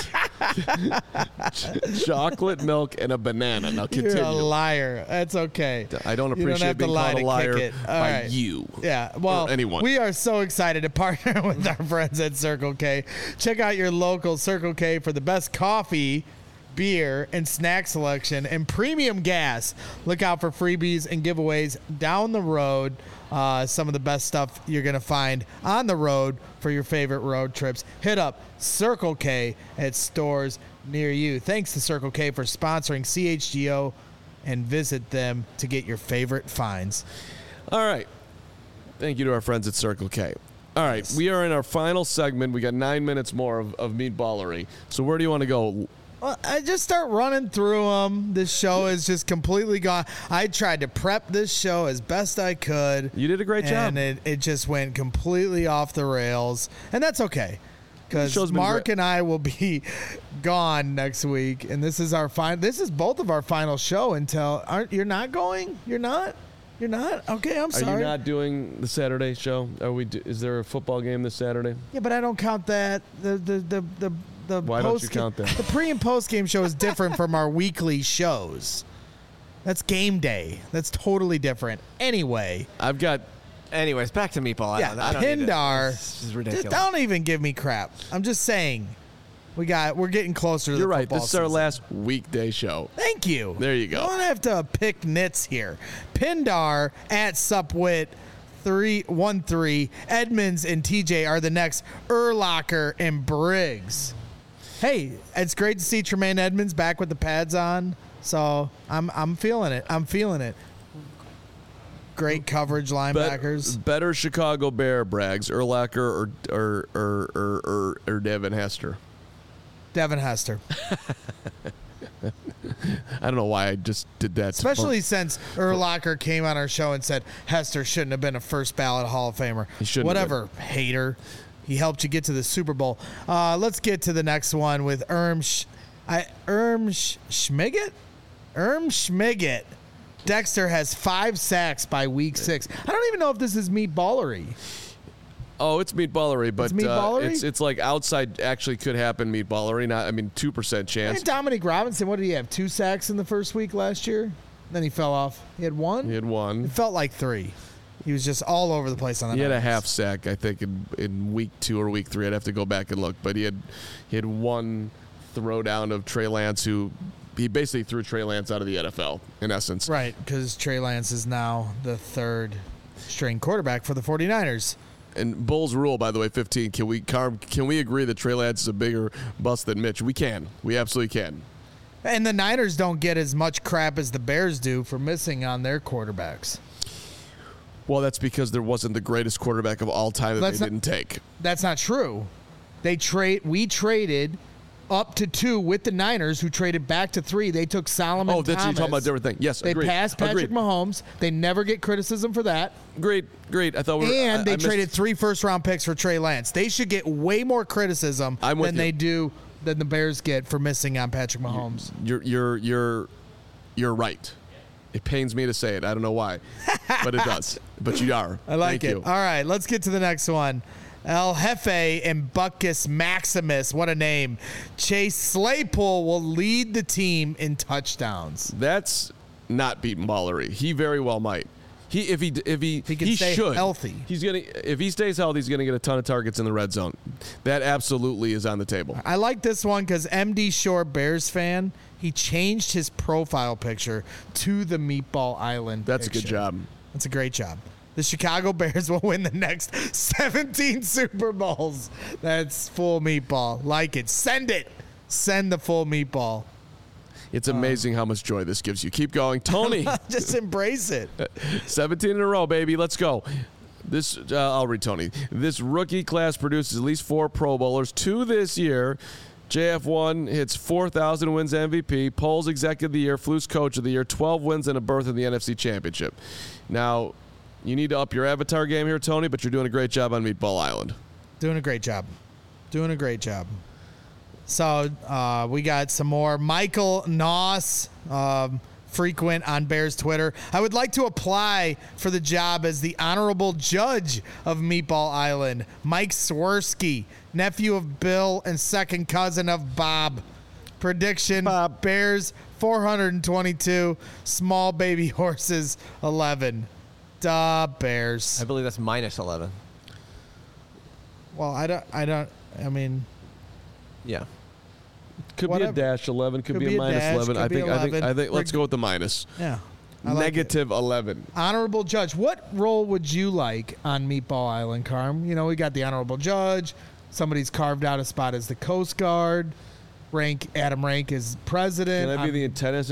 A: Chocolate milk and a banana. Now continue.
B: You're a liar. That's okay.
A: I don't appreciate being called a liar by you.
B: Yeah. Well,
A: or anyone.
B: We are so excited to partner with our friends at Circle K. Check out your local Circle K for the best coffee, beer, and snack selection and premium gas. Look out for freebies and giveaways down the road. Some of the best stuff you're going to find on the road for your favorite road trips. Hit up Circle K at stores near you. Thanks to Circle K for sponsoring CHGO, and visit them to get your favorite finds.
A: All right. Thank you to our friends at Circle K. All right, we are in our final segment. We got 9 minutes more of meatballery. So where do you want to go?
B: Well, I just start running through them. This show is just completely gone. I tried to prep this show as best I could.
A: You did a great job.
B: And it just went completely off the rails. And that's okay. Because Mark and I will be gone next week. And this is both of our final show until you're not going? You're not? You're not? Okay, I'm sorry.
A: Are you not doing the Saturday show? Is there a football game this Saturday?
B: Yeah, but I don't count that.
A: Why don't you count that?
B: The pre and post game show is different from our weekly shows. That's game day. That's totally different. Anyway,
C: Anyways, back to Meatball Island.
B: Pindar.
C: This is ridiculous.
B: Don't even give me crap. I'm just saying. We're getting closer to the football season.
A: This is our last weekday show.
B: Thank you.
A: There you go.
B: Don't have to pick nits here. Pindar at Supwit 313. Edmonds and TJ are the next. Urlacher and Briggs. Hey, it's great to see Tremaine Edmonds back with the pads on. So I'm feeling it. Great coverage, linebackers.
A: Better Chicago Bear, Braggs, Urlacher or Devin Hester.
B: Devin Hester.
A: I don't know why I just did that.
B: Especially since Urlacher came on our show and said Hester shouldn't have been a first ballot Hall of Famer.
A: He shouldn't.
B: Whatever, hater. He helped you get to the Super Bowl. Let's get to the next one with Schmiggett. Dexter has 5 sacks by week 6. I don't even know if this is meatballery.
A: Oh, it's meatballery, but
B: it's meatballery?
A: It's like outside actually could happen meatballery. 2% chance.
B: And Dominic Robinson, what did he have? 2 sacks in the first week last year? Then he fell off. He had 1?
A: He had 1.
B: It felt like 3. He was just all over the place on the
A: He had a half sack, I think, in week 2 or week 3. I'd have to go back and look. But he had 1 throwdown of Trey Lance, who he basically threw Trey Lance out of the NFL, in essence.
B: Right, because Trey Lance is now the 3rd string quarterback for the 49ers.
A: And Bulls rule, by the way, 15. Can we agree that Trey Lance is a bigger bust than Mitch? We can. We absolutely can.
B: And the Niners don't get as much crap as the Bears do for missing on their quarterbacks.
A: Well, that's because there wasn't the greatest quarterback of all time that they didn't take.
B: That's not true. We traded up to 2 with the Niners, who traded back to 3. They took Solomon Thomas.
A: You're talking about a different thing. Yes,
B: they
A: agreed.
B: passed Patrick Mahomes. They never get criticism for that.
A: Great. I thought
B: they traded 3 first-round picks for Trey Lance. They should get way more criticism than the Bears get for missing on Patrick Mahomes.
A: You're right. It pains me to say it. I don't know why, but it does. But you are.
B: I like
A: Thank
B: it.
A: you.
B: All right, let's get to the next one. El Jefe and Buckus Maximus. What a name. Chase Claypool will lead the team in touchdowns.
A: That's not beating ballery. He very well might. If he
B: stay
A: should
B: healthy.
A: If he stays healthy, he's gonna get a ton of targets in the red zone. That absolutely is on the table.
B: I like this one because MD Shore, Bears fan, he changed his profile picture to the Meatball Island.
A: That's
B: picture.
A: a good job.
B: That's a great job. The Chicago Bears will win the next 17 Super Bowls. That's full meatball. Like it. Send it. Send the full meatball.
A: It's amazing how much joy this gives you. Keep going. Tony.
B: Just embrace it.
A: 17 in a row, baby. Let's go. I'll read Tony. This rookie class produces at least 4 Pro Bowlers. 2 this year. JF1 hits 4,000 wins MVP. Polls Executive of the Year. Fluke's Coach of the Year. 12 wins and a berth in the NFC Championship. Now, you need to up your avatar game here, Tony, but you're doing a great job on Meatball Island.
B: Doing a great job. So we got some more. Michael Noss, frequent on Bears Twitter. I would like to apply for the job as the honorable judge of Meatball Island. Mike Swirsky, nephew of Bill and second cousin of Bob. Prediction, Bob. Bears 422, small baby horses 11. Duh, Bears.
C: I believe that's minus 11.
B: Well, I mean.
C: Yeah.
A: Could be a dash 11. Could be a minus 11. I think let's go with the minus.
B: Yeah.
A: Negative 11.
B: Honorable judge. What role would you like on Meatball Island, Carm? You know, we got the honorable judge. Somebody's carved out a spot as the Coast Guard. Adam Rank is president.
A: Can I be the tennis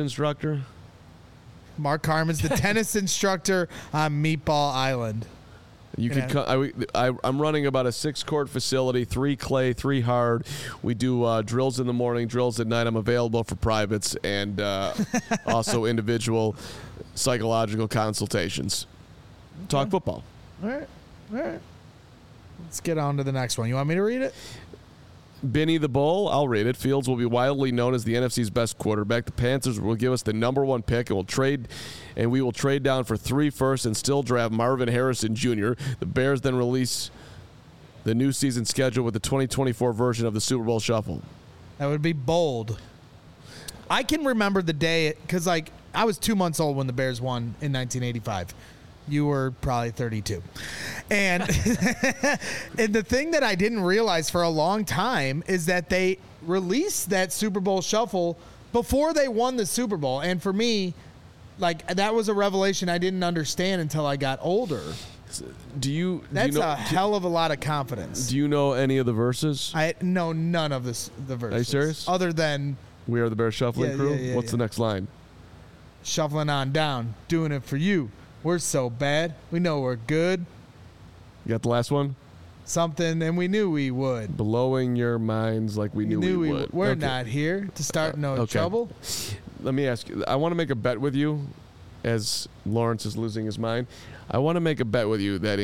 A: You could. I'm running about a 6-court facility, 3 clay, 3 hard. We do drills in the morning, drills at night. I'm available for privates and also individual psychological consultations. Talk football.
B: All right. Let's get on to the next one. You want me to read it?
A: Benny the Bull, I'll read it. Fields will be widely known as the NFC's best quarterback. The Panthers will give us the number 1 pick, and we will trade down for 3 firsts and still draft Marvin Harrison Jr. The Bears then release the new season schedule with the 2024 version of the Super Bowl Shuffle.
B: That would be bold. I can remember the day because, I was 2 months old when the Bears won in 1985. You were probably 32. And and the thing that I didn't realize for a long time is that they released that Super Bowl Shuffle before they won the Super Bowl. And for me, that was a revelation I didn't understand until I got older. That's a hell of a lot of confidence.
A: Do you know any of the verses?
B: I know none of the verses.
A: Are you serious?
B: Other than
A: We Are the Bears Shuffling Crew? What's the next line?
B: Shuffling on down, doing it for you. We're so bad. We know we're good.
A: You got the last one?
B: Something, and we knew we would.
A: Blowing your minds like we knew we would.
B: We're not here to start no trouble.
A: Let me ask you. I want to make a bet with you as Lawrence is losing his mind. I want to make a bet with you that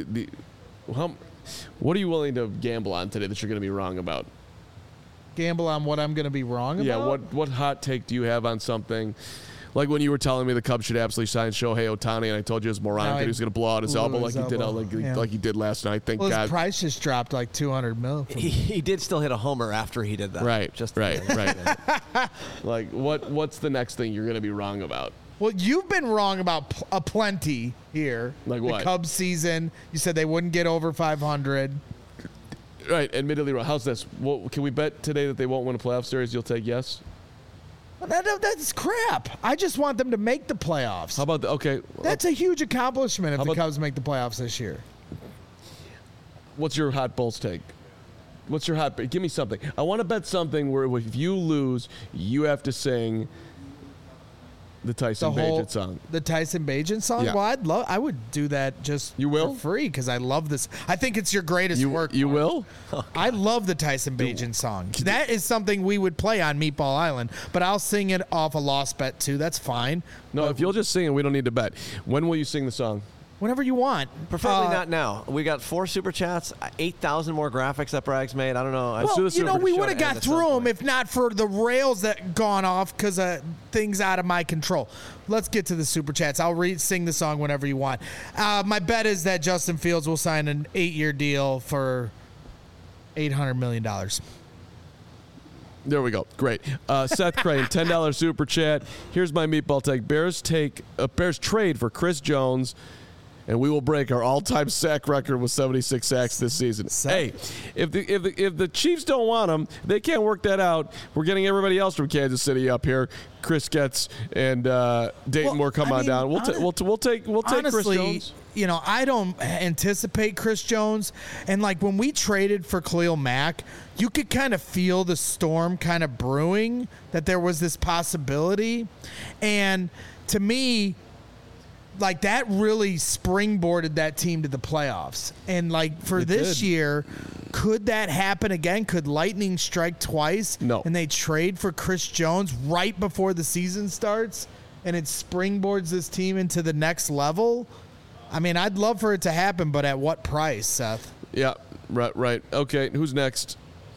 A: what are you willing to gamble on today that you're going to be wrong about?
B: Gamble on what I'm going to be wrong about?
A: Yeah, what hot take do you have on something? Like when you were telling me the Cubs should absolutely sign Shohei Ohtani, and I told you it was moronic that he was going to blow out his elbow like he did last night. Thank God.
B: His price just dropped like $200 million.
C: He did still hit a homer after he did that.
A: Right. Right. Like what's the next thing you're going to be wrong about?
B: Well, you've been wrong about a plenty here.
A: Like what?
B: The Cubs season. You said they wouldn't get over 500.
A: Right. Admittedly wrong. How's this? Can we bet today that they won't win a playoff series? You'll take yes?
B: That's crap. I just want them to make the playoffs.
A: How about okay?
B: That's a huge accomplishment if the Cubs make the playoffs this year.
A: What's your hot Bulls take? What's your hot? Give me something. I want to bet something where if you lose, you have to sing the Tyson Bagent song.
B: The Tyson Bagent song?
A: Yeah.
B: Well, I would do that just for free because I love this. I think it's your greatest work.
A: You will?
B: I love the Tyson Bagent song. That is something we would play on Meatball Island, but I'll sing it off a lost bet too. That's fine.
A: No, if you'll just sing it, we don't need to bet. When will you sing the song?
B: Whenever you want.
C: Preferably not now. We got 4 super chats, 8,000 more graphics that Bragg's made. I don't know.
B: We would have got through them if not for the rails that gone off because of things out of my control. Let's get to the super chats. I'll sing the song whenever you want. My bet is that Justin Fields will sign an 8-year deal for $800 million.
A: There we go. Great. Seth Crane, $10 super chat. Here's my meatball take. Bears trade for Chris Jones, and we will break our all-time sack record with 76 sacks this season. Hey, if the Chiefs don't want him, they can't work that out. We're getting everybody else from Kansas City up here. Chris Getz and Dayton Moore come on down. We'll take Chris Jones.
B: I don't anticipate Chris Jones. And when we traded for Khalil Mack, you could kind of feel the storm kind of brewing that there was this possibility. And to me, that really springboarded that team to the playoffs. And for this year, could that happen again? Could lightning strike twice?
A: No.
B: And they trade for Chris Jones right before the season starts and it springboards this team into the next level? I mean, I'd love for it to happen, but at what price, Seth?
A: Yeah, right. Okay, who's next?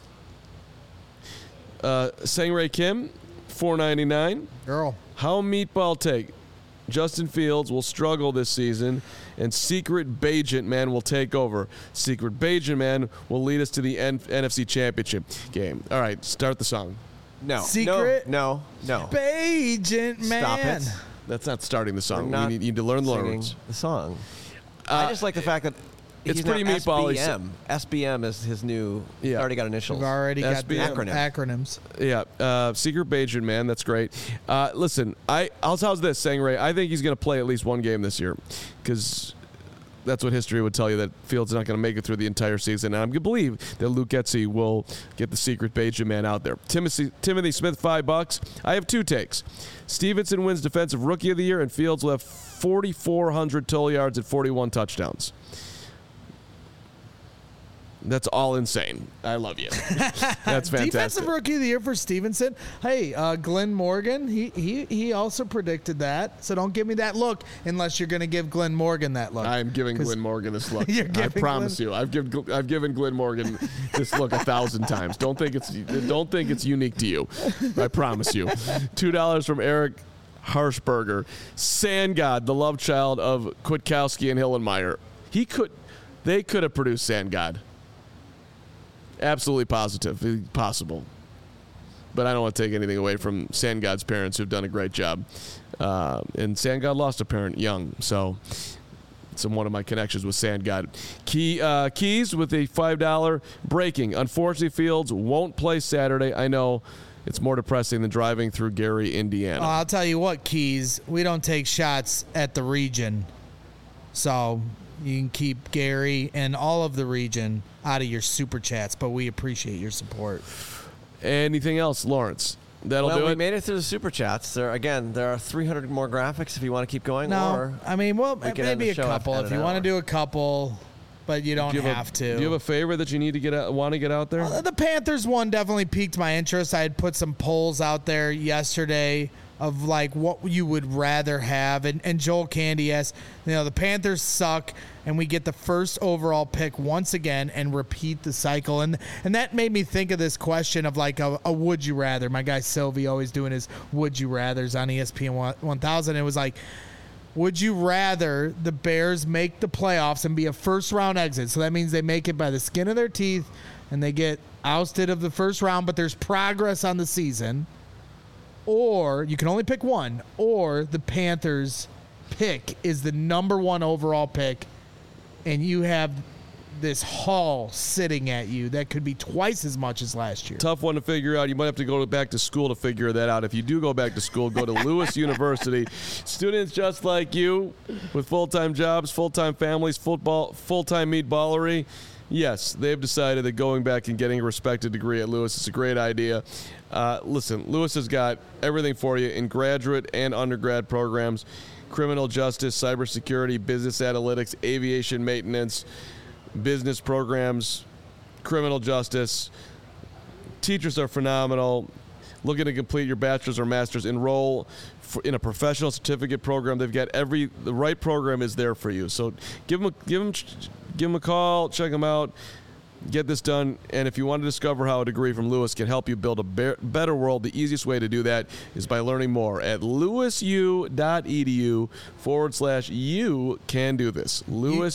A: Sangray Kim, $4.99.
B: Girl.
A: How meatball take? Justin Fields will struggle this season, and Secret Bagent Man will take over. Secret Bagent Man will lead us to the NFC Championship game. All right, start the song.
C: No.
B: Secret?
C: No.
B: Bagent Man.
C: Stop it.
A: That's not starting the song. You need to learn the words.
C: The song. I just like the fact that
A: it's pretty meatball-y.
C: SBM is his new.
A: Yeah.
C: Already got initials.
B: We've already got the
C: acronyms.
A: Yeah. Secret Bagent Man. That's great. Listen, how's this, Sangray? I think he's going to play at least one game this year because that's what history would tell you, that Fields is not going to make it through the entire season. And I'm going to believe that Luke Getsy will get the Secret Bagent Man out there. Timothy Smith, $5. I have 2 takes. Stevenson wins Defensive Rookie of the Year, and Fields will have 4,400 total yards and 41 touchdowns. That's all insane. I love you. That's fantastic.
B: Defensive Rookie of the Year for Stevenson. Hey, Glenn Morgan, he also predicted that. So don't give me that look unless you're going to give Glenn Morgan that look.
A: I'm giving Glenn Morgan this look.
B: I
A: promise you. I've given Glenn Morgan this look 1,000 times. Don't think it's unique to you. I promise you. $2 from Eric Harshberger. Sand God, the love child of Kwiatkowski and Hillenmeyer. They could have produced Sand God. Absolutely possible. But I don't want to take anything away from Sand God's parents who've done a great job. And Sand God lost a parent young, so it's one of my connections with Sand God. Keys with a $5 breaking. Unfortunately, Fields won't play Saturday. I know it's more depressing than driving through Gary, Indiana.
B: I'll tell you what, Keys, we don't take shots at the region. So you can keep Gary and all of the region out of your super chats, but we appreciate your support.
A: Anything else, Lawrence? That'll do it.
C: We made it through the super chats. There are 300 more graphics if you want to keep going.
B: No,
C: or
B: maybe a couple if you want to do a couple, but you don't have to.
A: Do you have a favorite that you need to want to get out there?
B: The Panthers one definitely piqued my interest. I had put some polls out there yesterday of like what you would rather have, and Joel Candy asked, the Panthers suck, and we get the first overall pick once again and repeat the cycle, and that made me think of this question of like a would you rather. My guy Sylvie always doing his would you rathers on ESPN 1000. It was like, would you rather the Bears make the playoffs and be a first round exit? So that means they make it by the skin of their teeth and they get ousted of the first round, but there's progress on the season. Or you can only pick one, or the Panthers pick is the number one overall pick, and you have this haul sitting at you that could be twice as much as last year.
A: Tough one to figure out. You might have to go back to school to figure that out. If you do go back to school, go to Lewis University. Students just like you with full-time jobs, full-time families, full-time meatballery. Yes, they've decided that going back and getting a respected degree at Lewis is a great idea. Listen, Lewis has got everything for you in graduate and undergrad programs: criminal justice, cybersecurity, business analytics, aviation maintenance, business programs, criminal justice. Teachers are phenomenal. Looking to complete your bachelor's or master's, enroll in a professional certificate program. They've got the right program is there for you. So give them a call, check them out, get this done. And if you want to discover how a degree from Lewis can help you build a better world, the easiest way to do that is by learning more at lewisu.edu/you can do this.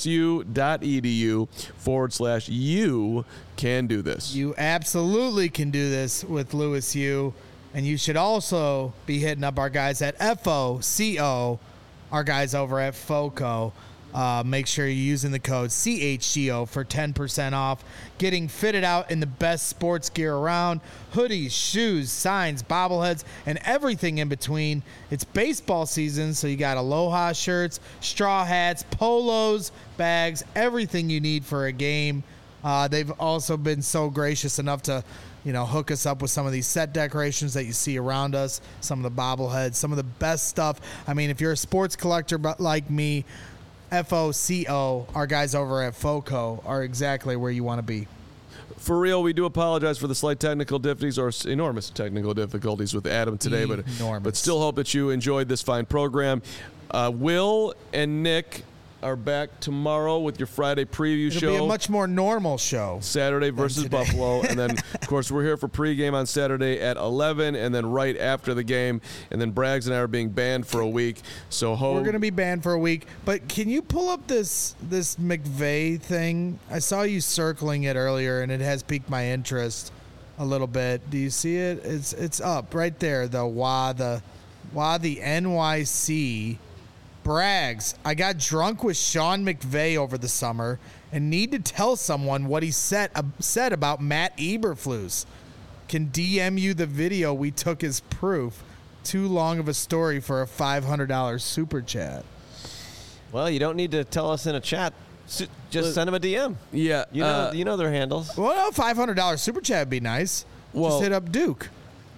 A: lewisu.edu/you can do this.
B: You absolutely can do this with Lewis U. And you should also be hitting up our guys at FOCO, our guys over at FOCO. Make sure you're using the code CHGO for 10% off. Getting fitted out in the best sports gear around. Hoodies, shoes, signs, bobbleheads, and everything in between. It's baseball season, so you got Aloha shirts, straw hats, polos, bags, everything you need for a game. They've also been so gracious enough to hook us up with some of these set decorations that you see around us, some of the bobbleheads, some of the best stuff. I mean, if you're a sports collector like me, FOCO, our guys over at FOCO, are exactly where you want to be.
A: For real, we do apologize for the slight technical difficulties or enormous technical difficulties with Adam today, but still hope that you enjoyed this fine program. Will and Nick are back tomorrow with your Friday preview show.
B: It'll be a much more normal show.
A: Saturday versus Buffalo. And then, of course, we're here for pregame on Saturday at 11 and then right after the game. And then Braggs and I are being banned for a week. So
B: we're going to be banned for a week. But can you pull up this McVay thing? I saw you circling it earlier, and it has piqued my interest a little bit. Do you see it? It's up right there. The NYC. Braggs, I got drunk with Sean McVay over the summer and need to tell someone what he said about Matt Eberflus. Can DM you the video we took as proof. Too long of a story for a $500 super chat.
C: Well, you don't need to tell us in a chat. Just send them a DM.
A: Yeah.
C: You know their handles.
B: Well, $500 super chat would be nice. Just hit up Duke.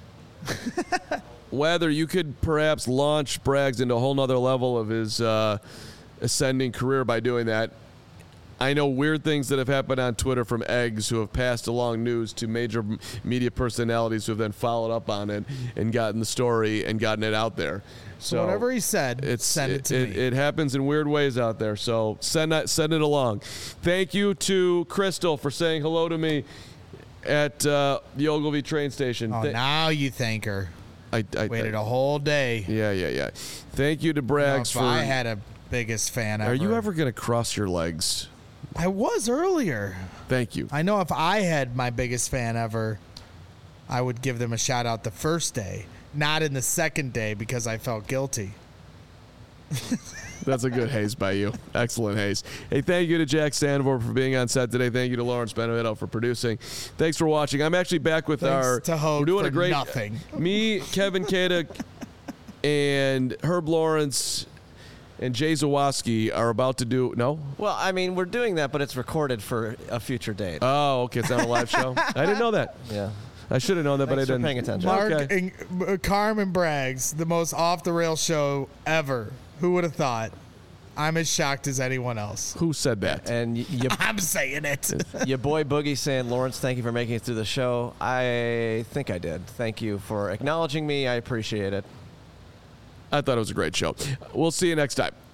A: Whether you could perhaps launch Braggs into a whole nother level of his ascending career by doing that. I know weird things that have happened on Twitter from eggs who have passed along news to major media personalities who have then followed up on it and gotten the story and gotten it out there. So
B: whatever he said, send it to me.
A: It happens in weird ways out there. So send it along. Thank you to Crystal for saying hello to me at the Ogilvie train station.
B: Oh, now you thank her.
A: I
B: waited a whole day.
A: Yeah. Thank you to Braggs for.
B: I had a biggest fan ever.
A: Are you ever going to cross your legs?
B: I was earlier.
A: Thank you.
B: I know if I had my biggest fan ever, I would give them a shout out the first day, not in the second day because I felt guilty.
A: That's a good haze by you. Excellent haze. Hey, thank you to Jack Sandvor for being on set today. Thank you to Lawrence Benevito for producing. Thanks for watching. I'm actually back with
B: we're doing
A: a great
B: nothing.
A: Me, Kevin Kada, and Herb Lawrence and Jay Zawoski are about to do
C: Well, I mean, we're doing that, but it's recorded for a future date.
A: Oh, okay. It's not a live show. I didn't know that.
C: Yeah.
A: I should have known that, but I didn't.
C: Paying attention.
B: Mark
A: Okay.
B: and Carmen Braggs, the most off the rail show ever. Who would have thought? I'm as shocked as anyone else.
A: Who said that?
C: And
B: I'm saying it.
C: Your boy Boogie saying, Lawrence, thank you for making it through the show. I think I did. Thank you for acknowledging me. I appreciate it.
A: I thought it was a great show. We'll see you next time.